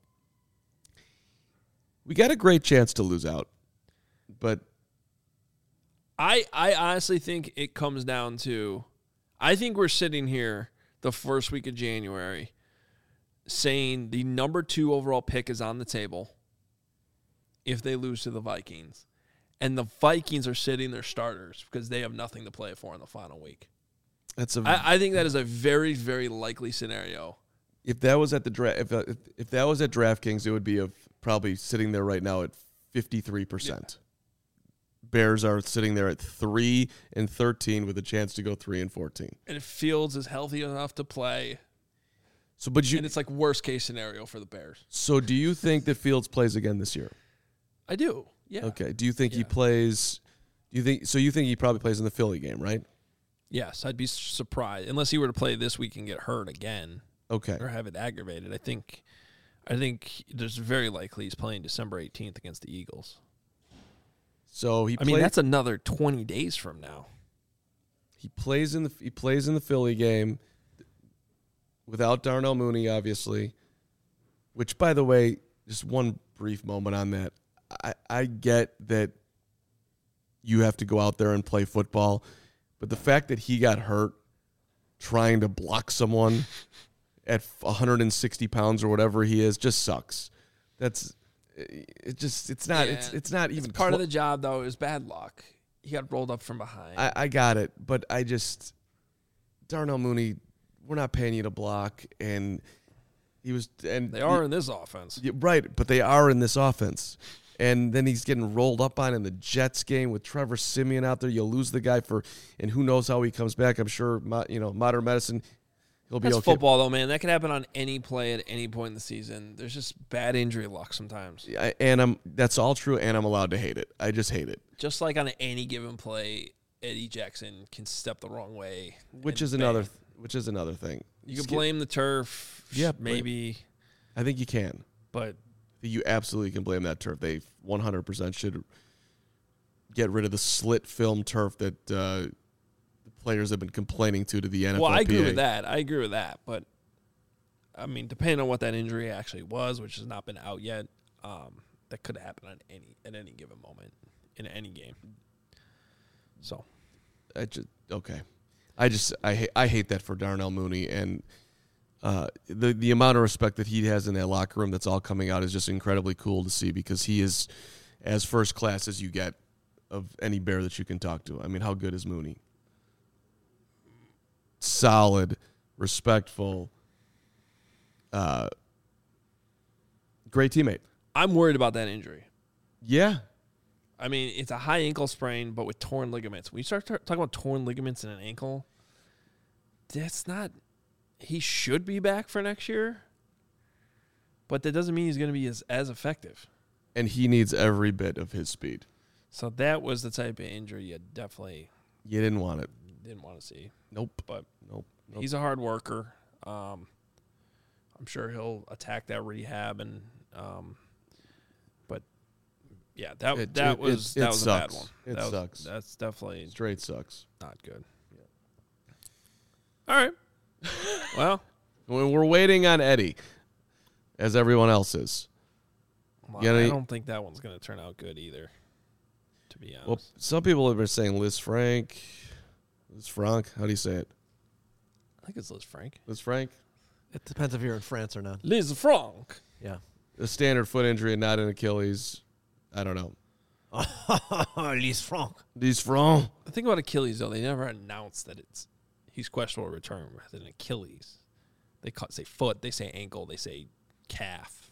We got a great chance to lose out, but I, I honestly think it comes down to, I think we're sitting here the first week of January saying the number two overall pick is on the table if they lose to the Vikings. And the Vikings are sitting their starters because they have nothing to play for in the final week. that's a. I, I think that is a very, very likely scenario. if that was at the draft, if, uh, if if that was at DraftKings, it would be of probably sitting there right now at fifty-three percent. Bears are sitting there at three and thirteen with a chance to go three and fourteen. And if Fields is healthy enough to play, So, but you. and it's like worst case scenario for the Bears. So, do you think that Fields plays again this year? I do. Yeah. Okay. Do you think he Yeah. plays? Do you think so? You think he probably plays in the Philly game, right? Yes, I'd be surprised unless he were to play this week and get hurt again Okay. or have it aggravated. I think, I think there's very likely he's playing December eighteenth against the Eagles. So he. I mean, play- that's another twenty days from now. he plays in the he plays in the Philly game without Darnell Mooney, obviously. Which, by the way, just one brief moment on that. I, I get that you have to go out there and play football, but the fact that he got hurt trying to block someone at one hundred sixty pounds or whatever he is just sucks. That's it. Just it's not. It's Yeah. it's not even Part clo- of the job though is bad luck. He got rolled up from behind. I, I got it, but I just Darnell Mooney, we're not paying you to block, and he was and they are in this offense. Yeah, right, but they are in this offense. And then he's getting rolled up on in the Jets game with Trevor Siemian out there. You lose the guy for, and who knows how he comes back. I'm sure, you know, modern medicine, he'll be That's okay. football, though, man. That could happen on any play at any point in the season. There's just bad injury luck sometimes. I, and I'm that's all true, and I'm allowed to hate it. I just hate it. Just like on any given play, Eddie Jackson can step the wrong way. Which and is another, bang. which is another thing. You Just can get- blame the turf, Yeah, maybe, I think you can. but You absolutely can blame that turf. They one hundred percent should get rid of the slit film turf that uh, the players have been complaining to to the N F L P A. well, I agree with that. I agree with that, but I mean, depending on what that injury actually was, which has not been out yet, um, that could happen on any at any given moment in any game. So, I just okay. I just I hate I hate that for Darnell Mooney, and uh, the the amount of respect that he has in that locker room that's all coming out is just incredibly cool to see, because he is as first class as you get of any Bear that you can talk to. I mean, how good is Mooney? Solid, respectful, uh, great teammate. I'm worried about that injury. Yeah. I mean, it's a high ankle sprain, but with torn ligaments. When you start tar- talking about torn ligaments in an ankle, that's not. He should be back for next year, but that doesn't mean he's going to be as, as effective. And he needs every bit of his speed. So that was the type of injury you definitely You didn't want it. didn't want to see. Nope. But Nope. nope. he's a hard worker. Um, I'm sure he'll attack that rehab, and um, but yeah, that It- that it- was it- that it was a bad sucks. one. It That was- sucks. That's definitely Straight sucks. not good. All right. Well, When we're waiting on Eddie, as everyone else is. well, You got I any- don't think that one's going to turn out good either, to be honest. Well, some people have been saying Liz Frank. Liz Frank. How do you say it? I think it's Liz Frank. Liz Frank. It depends if you're in France or not. Liz Frank. Yeah. A standard foot injury and not an Achilles. I don't know. Liz Franck. Liz Frank. The thing about Achilles, though, they never announced that it's he's questionable return rather than Achilles. They ca- say foot, they say ankle, they say calf.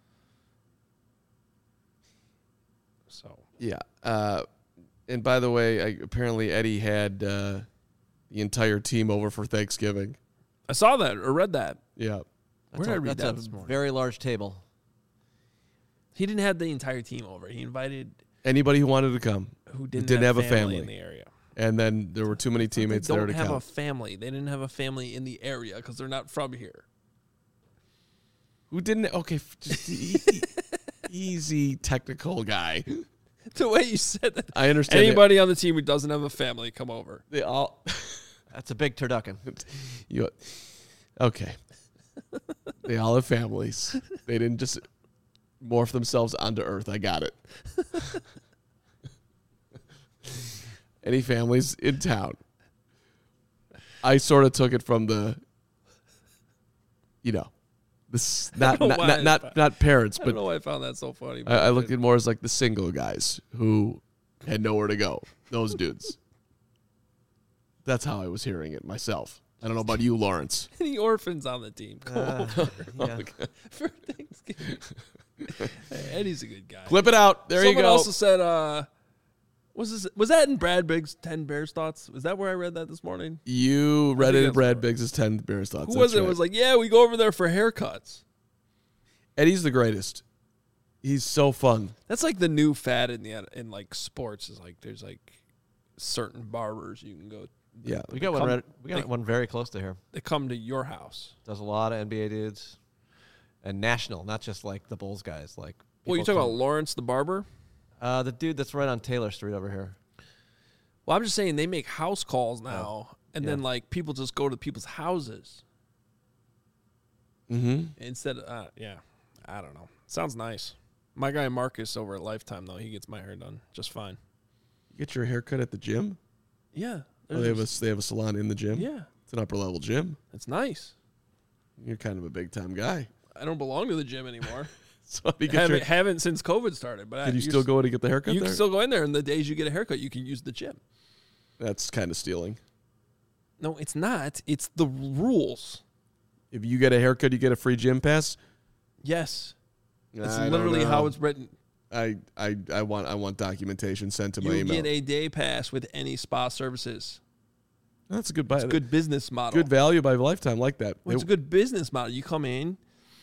So Yeah. Uh, and by the way, I, apparently Eddie had uh, the entire team over for Thanksgiving. I saw that or read that. Yeah. Where That's did I a, read that's that a this morning? very large table. He didn't have the entire team over. He invited Anybody who wanted to come. who didn't, didn't have, have a family, family. in the area. And then there were too many teammates they there don't to have come. a family. They didn't have a family in the area because they're not from here. Who didn't? Okay. f- Just easy, easy technical guy. The way you said that. I understand. it. Anybody on the team who doesn't have a family, come over. They all. That's a big turducken. You, okay. They all have families. They didn't just morph themselves onto Earth. I got it. Any families in town? I sort of took it from the, you know, this not know not why not I not, found- not parents, I don't but know why I found that so funny. I, I looked at more as like the single guys who had nowhere to go. Those dudes. That's how I was hearing it myself. I don't know about you, Lawrence. Any orphans on the team, come Uh, over yeah. for Thanksgiving. Hey, Eddie's a good guy. Clip it out. There Someone you go. also said, uh, was this was that in Brad Biggs' ten Bears thoughts? Was that where I read that this morning? You read think it in that's Brad right. Biggs' ten Bears thoughts. Who was That's it? right. Was like, yeah, we go over there for haircuts. Eddie's the greatest. He's so fun. That's like the new fad in the in like sports. Is like there's like certain barbers you can go. Yeah. We got one. Come- Right, we got they- one very close to here. They come to your house. Does a lot of N B A dudes, and national, not just like the Bulls guys. Like, Well, you people talking about come- Lawrence the barber? Uh, the dude that's right on Taylor Street over here. Well, I'm just saying they make house calls now, and Yeah. then like people just go to people's houses Mm-hmm. instead. Of, uh, yeah, I don't know. Sounds nice. My guy Marcus over at Lifetime though, he gets my hair done just fine. You get your hair cut at the gym? Yeah, Oh, they have a there's- they have a salon in the gym? yeah, It's an upper level gym. it's nice. You're kind of a big time guy. I don't belong to the gym anymore. So how do you get haven't, your, haven't since COVID started. But I, did you you're still s- go in to get the haircut You there? can still go in there, and the days you get a haircut, you can use the gym. That's kind of stealing. No, it's not. It's the rules. If you get a haircut, you get a free gym pass? Yes, it's I don't literally how know. it's written. I, I, I want I want documentation sent to my You email. get a day pass with any spa services. That's a good buy. It's a good business model. Good value by lifetime, like that. Well, it's a it, good business model. You come in.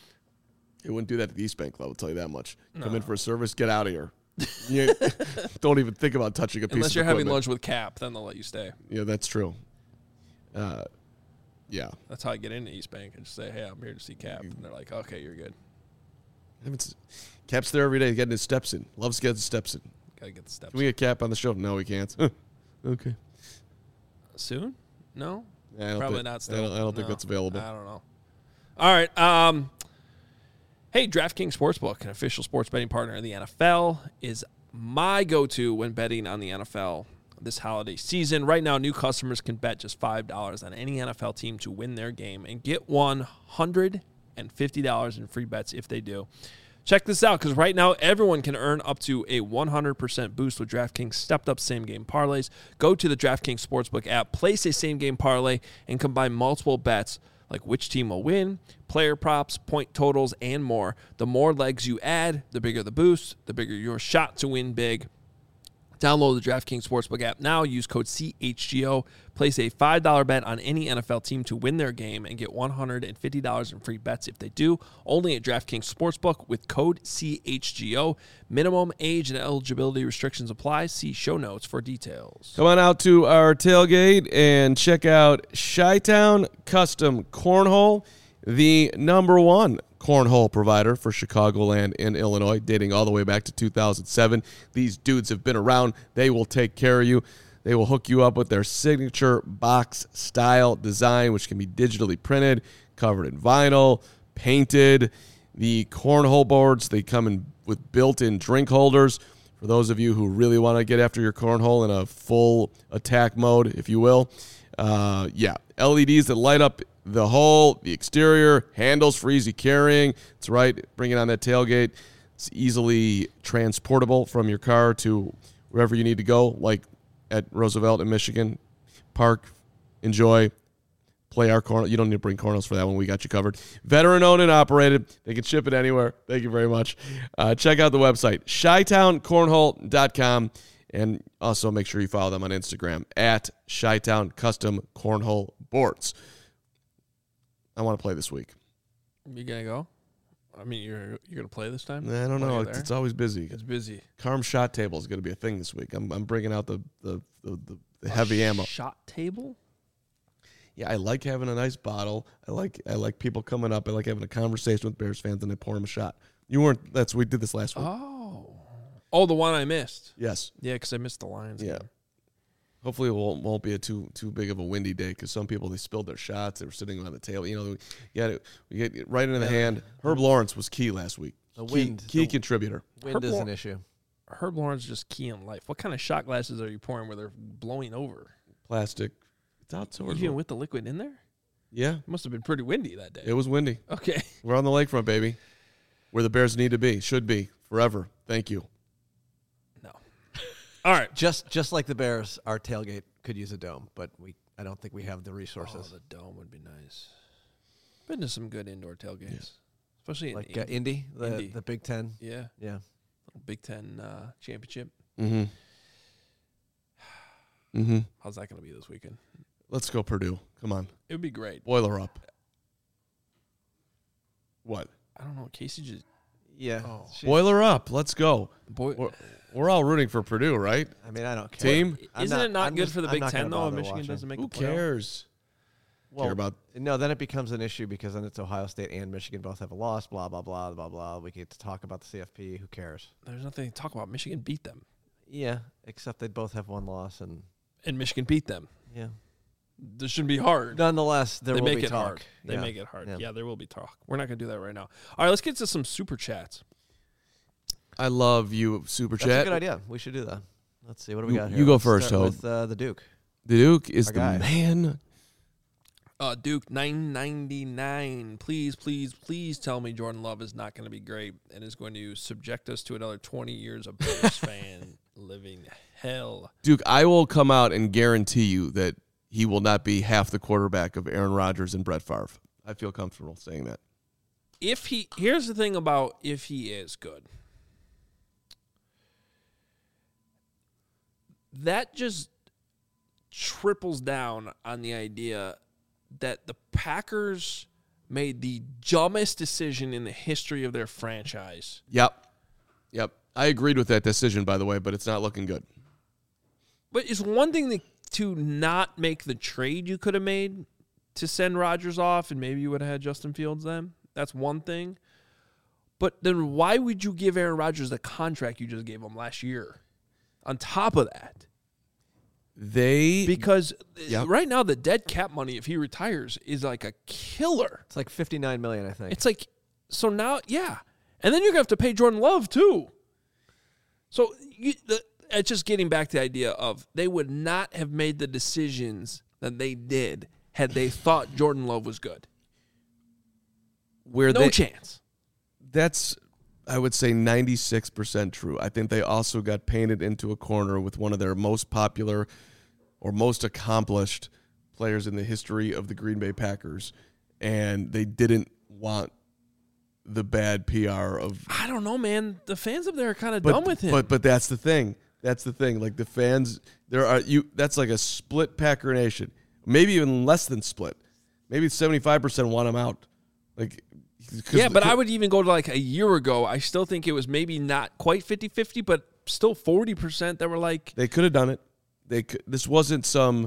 it wouldn't do that at the East Bank Club, I'll tell you that much. Come in for a service, get out of here. You don't even think about touching a piece Unless of you're having equipment. lunch with Cap, then they'll let you stay. Yeah, that's true. Uh, yeah. That's how I get into East Bank and just say, hey, I'm here to see Cap. And they're like, okay, you're good. I haven't s- Cap's there every day getting his steps in. Loves getting his steps in. Got to get the steps. Can we get Cap on the show? No, we can't. Okay. Soon? No? Yeah, I don't Probably think- not still. I don't, I don't think No. that's available. I don't know. All right. Um, hey, DraftKings Sportsbook, an official sports betting partner of the N F L, is my go-to when betting on the N F L this holiday season. Right now, new customers can bet just five dollars on any N F L team to win their game and get one hundred fifty dollars in free bets if they do. Check this out, because right now everyone can earn up to a one hundred percent boost with DraftKings stepped-up same-game parlays. Go to the DraftKings Sportsbook app, place a same-game parlay, and combine multiple bets like which team will win, player props, point totals, and more. The more legs you add, the bigger the boost, the bigger your shot to win big. Download the DraftKings Sportsbook app now. Use code C H G O. Place a five dollars bet on any N F L team to win their game and get one hundred fifty dollars in free bets if they do. Only at DraftKings Sportsbook with code C H G O. Minimum age and eligibility restrictions apply. See show notes for details. Come on out to our tailgate and check out Chi-Town Custom Cornhole, the number one cornhole provider for Chicagoland and Illinois, dating all the way back to two thousand seven. These dudes have been around. They will take care of you. They will hook you up with their signature box style design, which can be digitally printed, covered in vinyl, painted. The cornhole boards, they come in with built-in drink holders. For those of you who really want to get after your cornhole in a full attack mode, if you will. Uh, yeah, L E Ds that light up the hull, the exterior, handles for easy carrying. That's right, bring it on that tailgate. It's easily transportable from your car to wherever you need to go, like at Roosevelt in Michigan. Park, enjoy, play our cornhole. You don't need to bring cornholes for that one. We got you covered. Veteran owned and operated. They can ship it anywhere. Thank you very much. Uh, check out the website, chi town cornhole dot com. And also make sure you follow them on Instagram at Chi-Town Custom Cornhole Boards. I want to play this week. You gonna go? I mean, you're you're gonna play this time? I don't While know. you're It's, there? it's always busy. It's busy. Carm shot table is going to be a thing this week. I'm I'm bringing out the the, the, the, the heavy ammo. Shot table. Yeah, I like having a nice bottle. I like I like people coming up. I like having a conversation with Bears fans and I pour them a shot. You weren't. That's we did this last week. Oh, oh, the one I missed. Yes. Yeah, because I missed the Lions. Yeah. game. Hopefully it won't, won't be a too too big of a windy day because some people, they spilled their shots. They were sitting on the table. You know, we got it. We get it right into the hand. Herb Lawrence was key last week. The Key, wind. key the contributor. wind Herb is Law- an issue. Herb Lawrence just key in life. What kind of shot glasses are you pouring where they're blowing over? Plastic. It's outdoors. Even with the liquid in there? Yeah, It must have been pretty windy that day. it was windy. Okay. We're on the lakefront, baby. Where the Bears need to be. Should be. Forever. Thank you. No. All right. Just just like the Bears, our tailgate could use a dome, but we I don't think we have the Oh, resources. the dome would be nice. Been to some good indoor tailgates, especially in like uh, Indy. Indy, the Indy. the Big Ten. Yeah, Yeah. Big Ten uh, championship. Mm-hmm. Mm-hmm. How's that going to be this weekend? Let's go Purdue. Come on. It would be great. Boiler up. What? I don't know. Casey just Yeah. Oh. She's- Boiler up. Let's go. boy. We're, we're all rooting for Purdue, right? I mean, I don't care. Team? I'm Isn't it not I'm good just- for the I'm Big not Ten gonna though? If bother Michigan watching. doesn't make Who the playoff? cares? Well, Care about no, then it becomes an issue because then it's Ohio State and Michigan both have a loss. Blah blah blah blah blah. We get to talk about the C F P. Who cares? There's nothing to talk about. Michigan beat them, Yeah, except they both have one loss, and and Michigan beat them. yeah. This shouldn't be hard. Nonetheless, there they will make be it talk. hard. They Yeah. make it hard. Yeah. Yeah. there will be talk. We're not going to do that right now. All right, let's get to some super chats. I love you, Super That's Chat. a good idea. We should do that. Let's see. What do we You- got here? you go Let's first, start Hope. with uh, the Duke. The Duke is Our the guy. man. Uh, Duke nine ninety-nine. Please, please, please tell me Jordan Love is not going to be great and is going to subject us to another twenty years of Bears fan living hell. Duke, I will come out and guarantee you that he will not be half the quarterback of Aaron Rodgers and Brett Favre. I feel comfortable saying that. If he, here's the thing about if he is good. that just triples down on the idea that the Packers made the dumbest decision in the history of their franchise. Yep. Yep. I agreed with that decision, by the way, but it's not looking good. But it's one thing to, to not make the trade you could have made to send Rodgers off, and maybe you would have had Justin Fields then. That's one thing. But then why would you give Aaron Rodgers the contract you just gave him last year? On top of that. They Because Yep. right now the dead cap money, if he retires, is like a killer. It's like fifty-nine million dollars, I think. It's like, so now, yeah. And then you're going to have to pay Jordan Love, too. So you, the, it's just getting back to the idea of they would not have made the decisions that they did had they thought Jordan Love was good. where No they, chance. That's, I would say, ninety-six percent true. I think they also got painted into a corner with one of their most popular or most accomplished players in the history of the Green Bay Packers, and they didn't want the bad P R of. I don't know, man. The fans up there are kind of But, done with him. but but that's the thing. That's the thing. Like the fans, there are you. That's like a split Packer Nation. Maybe even less than split. Maybe seventy-five percent want him out. Like. Yeah, but I would even go to like a year ago. I still think it was maybe not quite fifty-fifty, but still forty percent that were like. They could have done it. They could, this wasn't some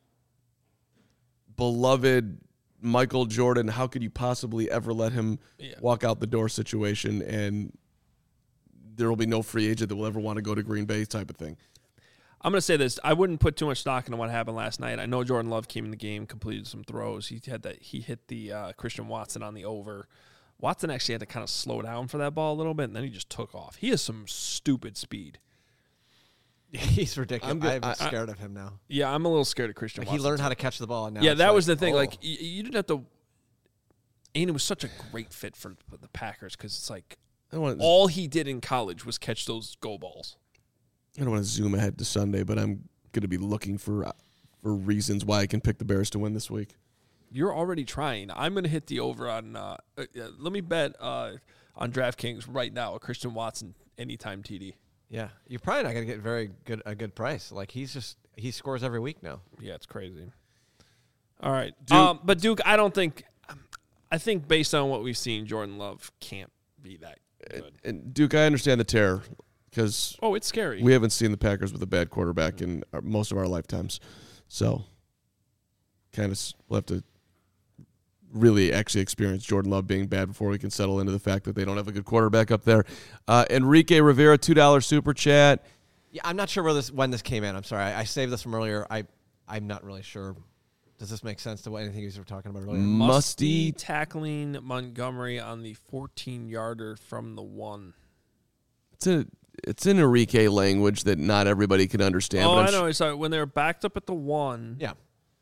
beloved Michael Jordan. How could you possibly ever let him Yeah. walk out the door situation, and there will be no free agent that will ever want to go to Green Bay type of thing. I'm going to say this. I wouldn't put too much stock into what happened last night. I know Jordan Love came in the game, completed some throws. He had that. He hit the uh, Christian Watson on the over. Watson actually had to kind of slow down for that ball a little bit, and then he just took off. He has some stupid speed. He's ridiculous. I'm good. I'm I- scared of him now. Yeah, I'm a little scared of Christian Like, Watson. he learned too. how to catch the ball. And now Yeah, it's that like, was the thing. oh. Like, you, you didn't have to. And it was such a great fit for the Packers because it's like I don't want to, all he did in college was catch those go balls. I don't want to zoom ahead to Sunday, but I'm going to be looking for uh, for reasons why I can pick the Bears to win this week. You're already trying. I'm going to hit the over on. Uh, uh, let me bet uh, on DraftKings right now a Christian Watson anytime T D. Yeah, you're probably not going to get very good a good price. Like he's just he scores every week now. Yeah, it's crazy. All right, Duke- um, but Duke, I don't think. I think based on what we've seen, Jordan Love can't be that good. And Duke, I understand the terror because Oh, it's scary. we haven't seen the Packers with a bad quarterback in our, most of our lifetimes. So, kind of we'll have to really actually experience Jordan Love being bad before we can settle into the fact that they don't have a good quarterback up there. Uh, Enrique Rivera, two dollars super chat. Yeah, I'm not sure where this when this came in. I'm sorry, I, I saved this from earlier. I I'm not really sure. Does this make sense to what anything you were talking about earlier? Musty. tackling Montgomery on the fourteen-yarder from the one. It's a it's in Enrique language that not everybody can understand. Oh, but I'm I sh- know. It's like when they were backed up at the one. Yeah,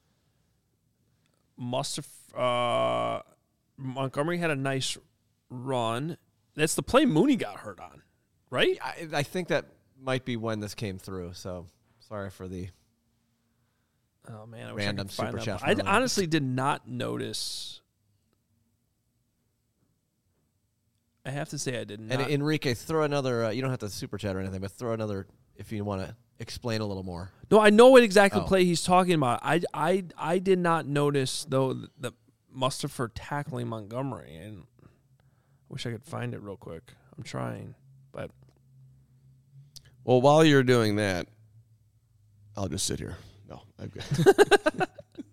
Must have. Uh, Montgomery had a nice run. That's the play Mooney got hurt on, right? I, I think that might be when this came through. So sorry for the. Oh man, I wish Random I could find super that chat one. I from honestly did not notice. I have to say I did not. And Enrique, throw another. Uh, you don't have to super chat or anything, but throw another if you want to explain a little more. No, I know what exactly Oh. play he's talking about. I, I, I did not notice though the Mustapher tackling Montgomery, and wish I could find it real quick. I'm trying, but well, while you're doing that, I'll just sit here. No, I've got.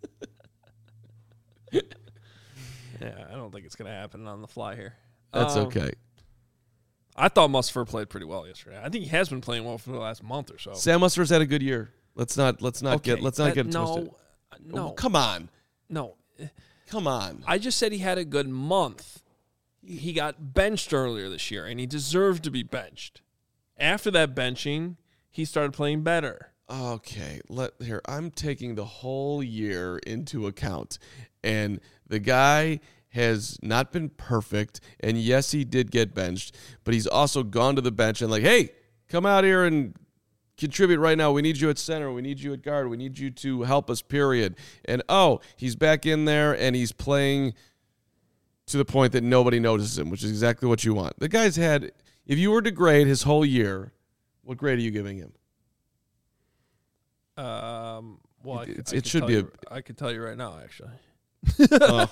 yeah, I don't think it's gonna happen on the fly here. That's Um, okay. I thought Mustapher played pretty well yesterday. I think he has been playing well for the last month or so. Sam Muster's had a good year. Let's not let's not get Okay, let's not uh, get it no, twisted. no, Oh, come on, no. come on. I just said he had a good month. He got benched earlier this year, and he deserved to be benched. After that benching, he started playing better. Okay, let here. I'm taking the whole year into account, and the guy has not been perfect. And yes, he did get benched, but he's also gone to the bench and like, hey, come out here and contribute right now. We need you at center. We need you at guard. We need you to help us. Period. And oh, he's back in there and he's playing to the point that nobody notices him, which is exactly what you want. The guy's had. If you were to grade his whole year, what grade are you giving him? Um, well, I, It's- I it could should tell be you, a- I could tell you right now, actually. Oh.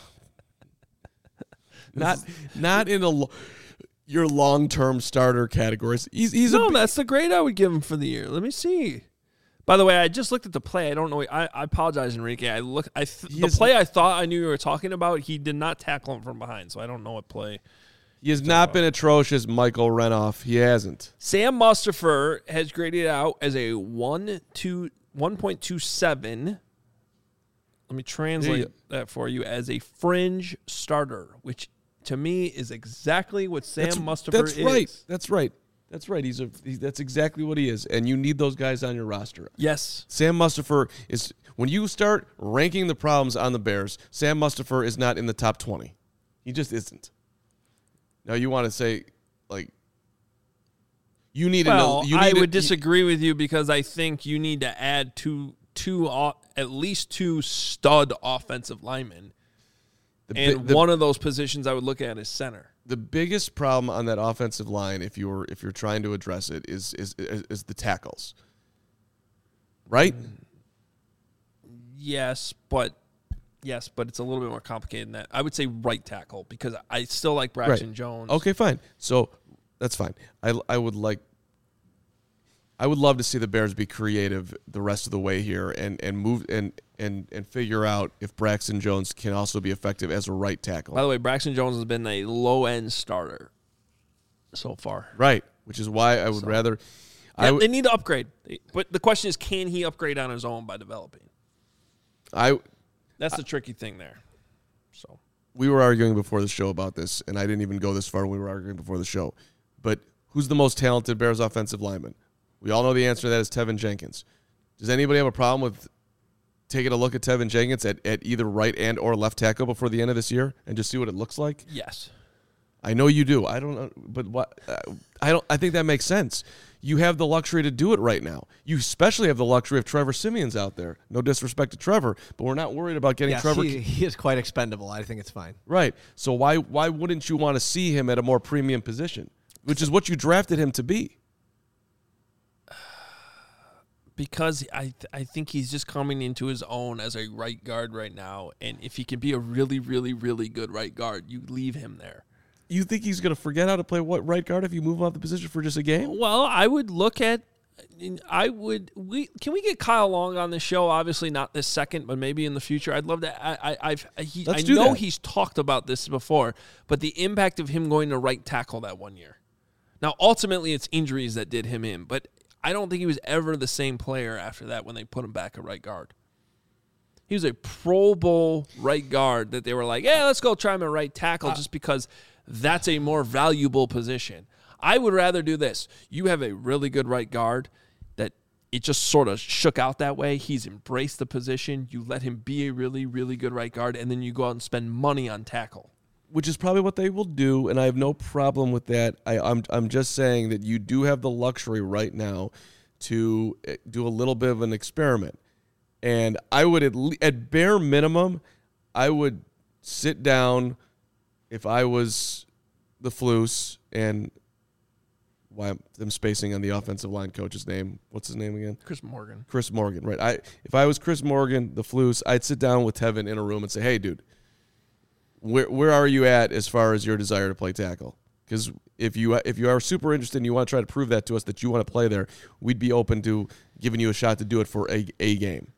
not not in a lo- your long-term starter categories. He's he's no, a that's the grade I would give him for the year. Let me see. By the way, I just looked at the play. I don't know. I, I apologize, Enrique. I look. I th- He the is- play I thought I knew you were talking about. He did not tackle him from behind, so I don't know what play. he has not been atrocious, Michael Renoff. He hasn't. Sam Mustipher has graded out as a one two one point two seven. Let me translate you- that for you as a fringe starter, which to me is exactly what Sam That's, Mustipher that's is. right. That's right. That's right. He's a. He, that's exactly what he is, and you need those guys on your roster. Yes. Sam Mustipher is when you start ranking the problems on the Bears. Sam Mustipher is not in the top twenty. He just isn't. Now you want to say, like, you need. Well, an, you I need would a, disagree with you because I think you need to add two, two, o- at least two stud offensive linemen, The, bi- and the, one of those positions I would look at is center. the biggest problem on that offensive line, if you're if you're trying to address it, is is is, is the tackles. Right. Yes, but yes, but it's a little bit more complicated than that. I would say right tackle because I still like Braxton Right. Jones. Okay, fine. So that's fine. I I would like. I would love to see the Bears be creative the rest of the way here and, and move and, and and figure out if Braxton Jones can also be effective as a right tackle. By the way, Braxton Jones has been a low end starter so far. Right, which is why I would So- rather. I Yeah, w- they need to upgrade, but the question is, can he upgrade on his own by developing? I That's the tricky thing there. So we were arguing before the show about this, and I didn't even go this far when we were arguing before the show. But who's the most talented Bears offensive lineman? We all know the answer to that is Tevin Jenkins. Does anybody have a problem with taking a look at Tevin Jenkins at, at either right and or left tackle before the end of this year and just see what it looks like? yes, I know you do. I don't know, but what uh, I don't. I think that makes sense. You have the luxury to do it right now. You especially have the luxury of Trevor Simeon's out there. No disrespect to Trevor, but we're not worried about getting Yes, Trevor. he, he is quite expendable. I think it's fine. Right. So why why wouldn't you want to see him at a more premium position, which is what you drafted him to be? because I th- I think he's just coming into his own as a right guard right now, and if he can be a really really really good right guard, you leave him there. You think he's going to forget how to play what right guard if you move off the position for just a game? Well, I would look at. I would. We can we get Kyle Long on the show? Obviously not this second, but maybe in the future. I'd love to. I. I. I've. He, I Let's do know that. he's talked about this before, but the impact of him going to right tackle that one year. Now, ultimately, it's injuries that did him in, but I don't think he was ever the same player after that when they put him back at right guard. He was a Pro Bowl right guard that they were like, yeah, let's go try him at right tackle just because that's a more valuable position. I would rather do this. You have a really good right guard that it just sort of shook out that way. He's embraced the position. You let him be a really, really good right guard, and then you go out and spend money on tackle. Which is probably what they will do, and I have no problem with that. I, I'm I'm just saying that you do have the luxury right now to eh, do a little bit of an experiment, and I would at, le- at bare minimum, I would sit down if I was the Floos and why I'm, I'm spacing on the offensive line coach's name. What's his name again? Chris Morgan. Chris Morgan, right? I if I was Chris Morgan, the Floos, I'd sit down with Tevin in a room and say, "Hey, dude, where where are you at as far as your desire to play tackle? Because if you if you are super interested and you want to try to prove that to us that you want to play there, we'd be open to giving you a shot to do it for a a game."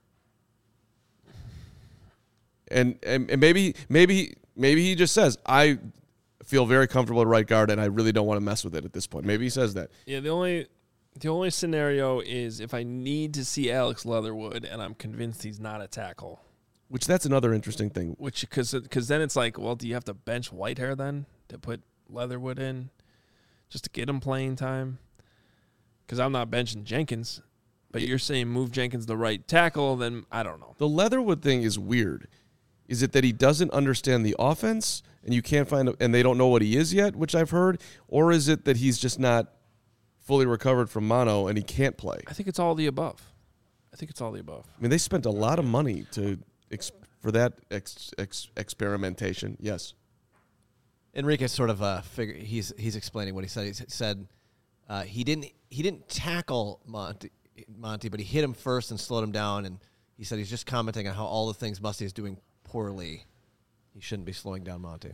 And and, and maybe maybe maybe he just says, "I feel very comfortable at right guard and I really don't want to mess with it at this point." Maybe he says that. Yeah, the only the only scenario is if I need to see Alex Leatherwood and I'm convinced he's not a tackle. Which that's another interesting thing. Which because because then it's like, well, do you have to bench Whitehair then to put Leatherwood in just to get him playing time? Because I'm not benching Jenkins, but you're saying move Jenkins to right tackle, then I don't know. The Leatherwood thing is weird. Is it that he doesn't understand the offense and you can't find and they don't know what he is yet, which I've heard, or is it that he's just not fully recovered from mono and he can't play? I think it's all the above. I think it's all the above. I mean, they spent a lot of money to ex- for that ex- ex- experimentation. Yes. Enrique sort of uh, figure he's he's explaining what he said. He said uh, he didn't he didn't tackle Mont. Monty, but he hit him first and slowed him down, and he said he's just commenting on how all the things Musty is doing poorly. He shouldn't be slowing down Monty.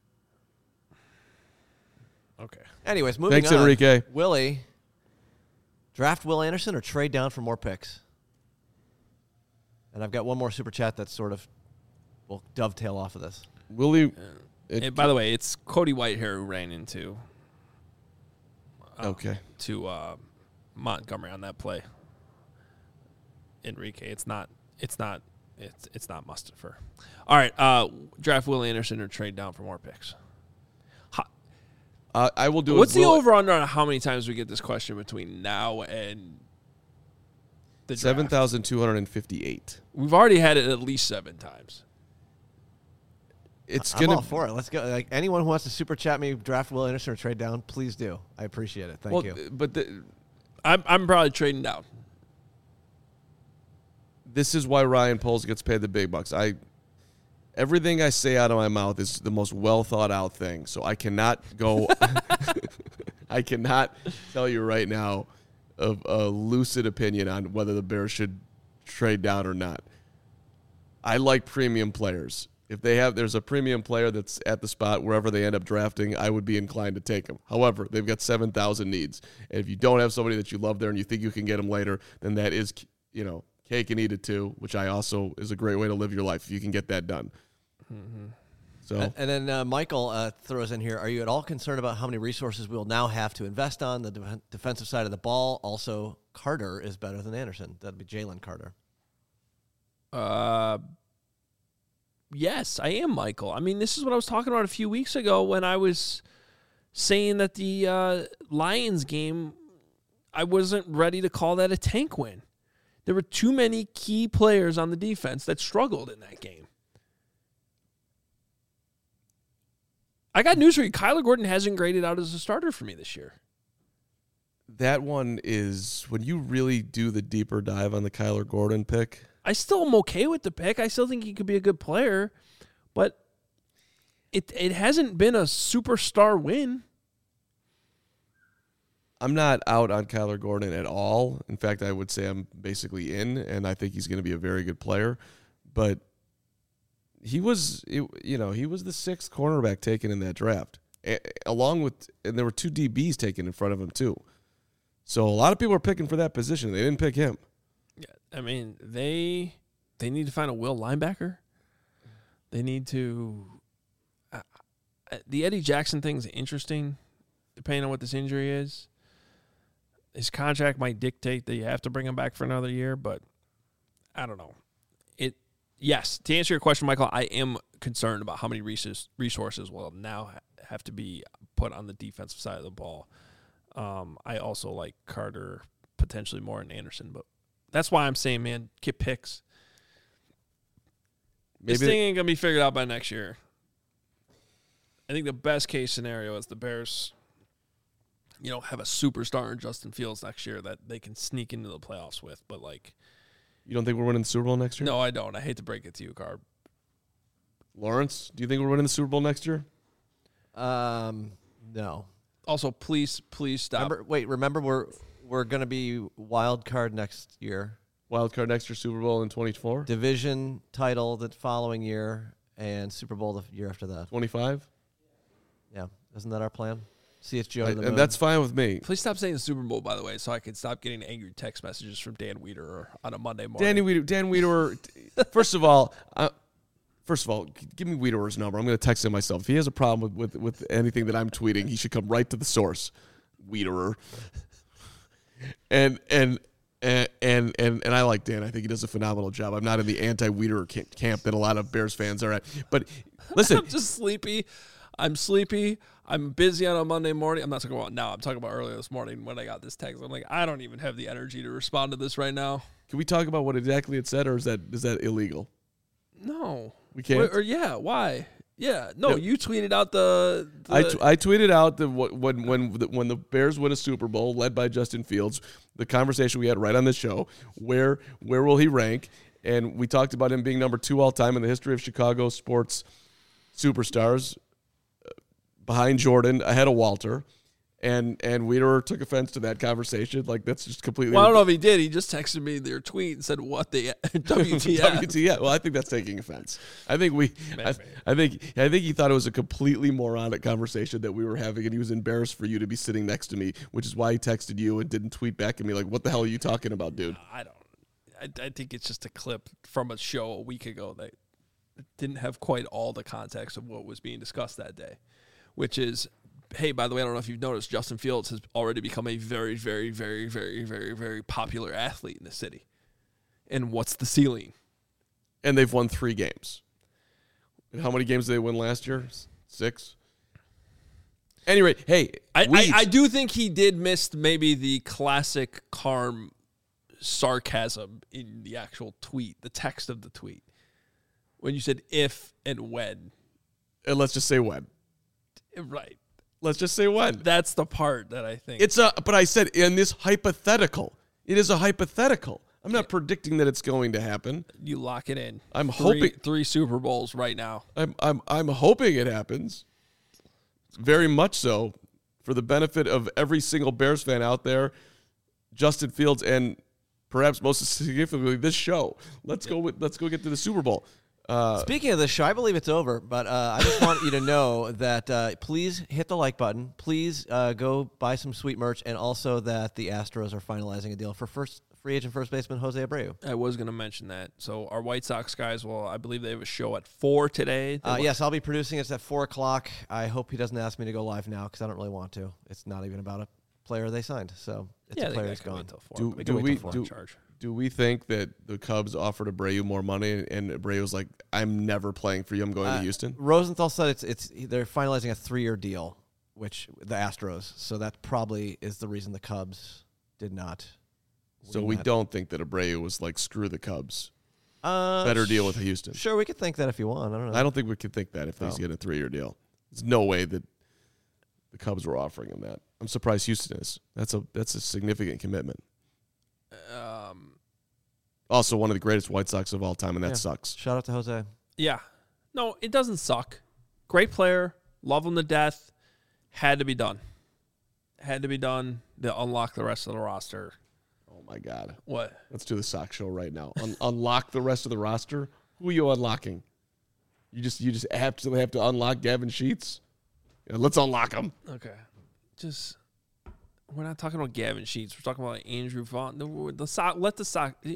Okay. Anyways, moving Thanks, on. Enrique. Willie, draft Will Anderson or trade down for more picks? And I've got one more super chat that sort of will dovetail off of this. Willie. It, and by the way, it's Cody Whitehair who ran into um, Okay. to uh, Montgomery on that play. Enrique, it's not. It's not. It's it's not Mustafa. All right, uh, draft Will Anderson or trade down for more picks. Uh, I will do. What's it. the Will, over under on how many times we get this question between now and the draft? seven thousand two hundred fifty-eight. We've already had it at least seven times. It's I'm gonna. all for it. Let's go. Like anyone who wants to super chat me, draft Will Anderson or trade down, please do. I appreciate it. Thank well, you. but the, I'm I'm probably trading down. this is why Ryan Poles gets paid the big bucks. I everything I say out of my mouth is the most well thought out thing. So I cannot go. I cannot tell you right now of a lucid opinion on whether the Bears should trade down or not. I like premium players. If they have, there's a premium player that's at the spot wherever they end up drafting, I would be inclined to take them. However, they've got seven thousand needs. And if you don't have somebody that you love there and you think you can get them later, then that is, you know, cake and eat it too, which I also is a great way to live your life if you can get that done. Mm-hmm. So, And, and then uh, Michael uh, throws in here, are you at all concerned about how many resources we'll now have to invest on the de- defensive side of the ball? Also, Carter is better than Anderson. That'd be Jalen Carter. Uh, yes, I am, Michael. I mean, this is what I was talking about a few weeks ago when I was saying that the uh, Lions game, I wasn't ready to call that a tank win. There were too many key players on the defense that struggled in that game. I got news for you. Kyler Gordon hasn't graded out as a starter for me this year. that one is when you really do the deeper dive on the Kyler Gordon pick. I still am okay with the pick. I still think he could be a good player, but it it hasn't been a superstar win. I'm not out on Kyler Gordon at all. In fact, I would say I'm basically in, and I think he's going to be a very good player. But he was, you know, he was the sixth cornerback taken in that draft, a- along with, and there were two D Bs taken in front of him too. So a lot of people are picking for that position. They didn't pick him. Yeah, I mean they they need to find a will linebacker. They need to. Uh, the Eddie Jackson thing's interesting, depending on what this injury is. His contract might dictate that you have to bring him back for another year, but I don't know. It yes, to answer your question, Michael, I am concerned about how many resources resources will now have to be put on the defensive side of the ball. Um, I also like Carter potentially more than Anderson, but that's why I'm saying, man, get picks. Maybe this thing ain't gonna be figured out by next year. I think the best case scenario is the Bears, you know, have a superstar in Justin Fields next year that they can sneak into the playoffs with. But, like... You don't think we're winning the Super Bowl next year? No, I don't. I hate to break it to you, Carb. Lawrence, do you think we're winning the Super Bowl next year? Um, no. Also, please, please stop. Remember, wait, remember we're we're going to be wild card next year. Wild card next year, Super Bowl in twenty-four? Division title the following year, and Super Bowl the year after that. twenty-five? Yeah. Isn't that our plan? See it's Joe I, to the and moon. that's fine with me. Please stop saying the Super Bowl, by the way, so I can stop getting angry text messages from Dan Wiederer on a Monday morning. Danny Weeder, Dan Wiederer, first of all, uh, first of all, g- give me Wiederer's number. I'm going to text him myself. If he has a problem with, with, with anything that I'm tweeting, he should come right to the source, Wiederer. and, and, and, and, and, and I like Dan. I think he does a phenomenal job. I'm not in the anti-Wiederer camp that a lot of Bears fans are at. But listen. I'm just sleepy. I'm sleepy. I'm busy on a Monday morning. I'm not talking about now. I'm talking about earlier this morning when I got this text. I'm like, I don't even have the energy to respond to this right now. Can we talk about what exactly it said, or is that is that illegal? No. We can't? Or, or yeah, why? Yeah. No, No. you tweeted out the... the I, t- I tweeted out that wh- when when the, when the Bears win a Super Bowl led by Justin Fields, the conversation we had right on the show, where where will he rank? And we talked about him being number two all time in the history of Chicago sports superstars, uh, behind Jordan, ahead of Walter. And and Wiederer took offense to that conversation. Like, that's just completely. Well, I don't know if he did. He just texted me their tweet and said, "What the W T F?" W T F. Well, I think that's taking offense. I think we. I, I think. I think he thought it was a completely moronic conversation that we were having, and he was embarrassed for you to be sitting next to me, which is why he texted you and didn't tweet back at me like, "What the hell are you talking about, dude?" I don't. I, I think it's just a clip from a show a week ago that didn't have quite all the context of what was being discussed that day, which is. Hey, by the way, I don't know if you've noticed, Justin Fields has already become a very, very, very, very, very, very popular athlete in the city. And what's the ceiling? And they've won three games. And how many games did they win last year? Six? Anyway, hey, I, I, I do think he did miss maybe the classic Carm sarcasm in the actual tweet, the text of the tweet. When you said if and when. And let's just say when. Right. Let's just say when. That's the part that I think. It's a, but I said in this hypothetical. It is a hypothetical. I'm not predicting that it's going to happen. You lock it in. I'm three, hoping three Super Bowls right now. I'm I'm I'm hoping it happens. Very much so, for the benefit of every single Bears fan out there, Justin Fields, and perhaps most significantly this show. Let's go with, let's go get to the Super Bowl. Uh, Speaking of this show, I believe it's over, but uh, I just want you to know that uh, please hit the like button. Please uh, go buy some sweet merch, and also that the Astros are finalizing a deal for first free agent first baseman Jose Abreu. I was going to mention that. So our White Sox guys, well, I believe they have a show at four today. Uh, yes, I'll be producing it at four o'clock. I hope he doesn't ask me to go live now because I don't really want to. It's not even about a player they signed, so it's yeah, a player they that's gone. Until four. Do, we do we do, charge. do we think that the Cubs offered Abreu more money, and Abreu was like, "I'm never playing for you. I'm going uh, to Houston"? Rosenthal said it's it's they're finalizing a three-year deal, which the Astros. So that probably is the reason the Cubs did not. So we that. don't think that Abreu was like, "Screw the Cubs." Uh, Better deal with Houston. Sure, we could think that if you want. I don't know. I don't think we could think that if no. he's getting a three-year deal. There's no way that the Cubs were offering him that. I'm surprised Houston is. That's a that's a significant commitment. Um, also, one of the greatest White Sox of all time, and that yeah. sucks. Shout out to Jose. Yeah. No, it doesn't suck. Great player. Love him to death. Had to be done. Had to be done to unlock the rest of the roster. Oh, my God. What? Let's do the Sox show right now. Un- unlock the rest of the roster? Who are you unlocking? You just you just absolutely have to unlock Gavin Sheets? Yeah, let's unlock him. Okay. Just... We're not talking about Gavin Sheets. We're talking about like Andrew Vaughn. The, the sock. Let the sock. I'm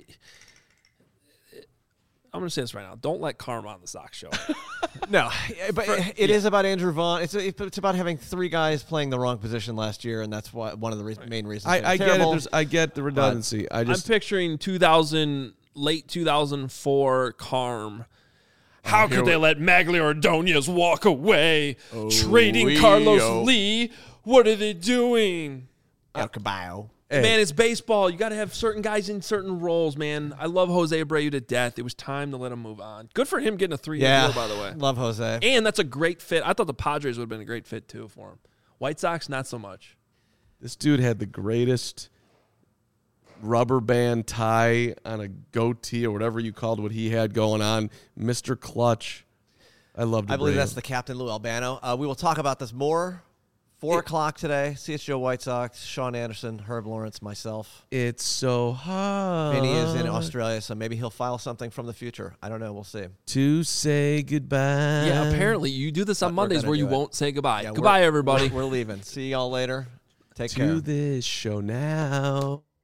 going to say this right now. Don't let Karma on the Sox show. No, but For, it yeah. is about Andrew Vaughn. It's it's about having three guys playing the wrong position last year, and that's why one of the re- right. main reasons. I, I get it. There's, I get the redundancy. I just I'm picturing two thousand, late two thousand four Carm. How could they let Magglio Ordonez walk away? Oh, trading we, Carlos oh. Lee. What are they doing? El Caballo. Hey. Man, it's baseball. You got to have certain guys in certain roles, man. I love Jose Abreu to death. It was time to let him move on. Good for him getting a three-year yeah. deal, by the way. Love Jose. And that's a great fit. I thought the Padres would have been a great fit, too, for him. White Sox, not so much. This dude had the greatest rubber band tie on a goatee or whatever you called what he had going on. Mister Clutch. I loved it. I believe that's the captain, Lou Albano. Uh, we will talk about this more. Four it, o'clock today. C H G O White Sox, Sean Anderson, Herb Lawrence, myself. It's so hot. Vinny is in Australia, so maybe he'll file something from the future. I don't know. We'll see. To say goodbye. Yeah, apparently you do this on but Mondays where you it. won't say goodbye. Yeah, goodbye, everybody. We're, we're leaving. See y'all later. Take to care. To this show now.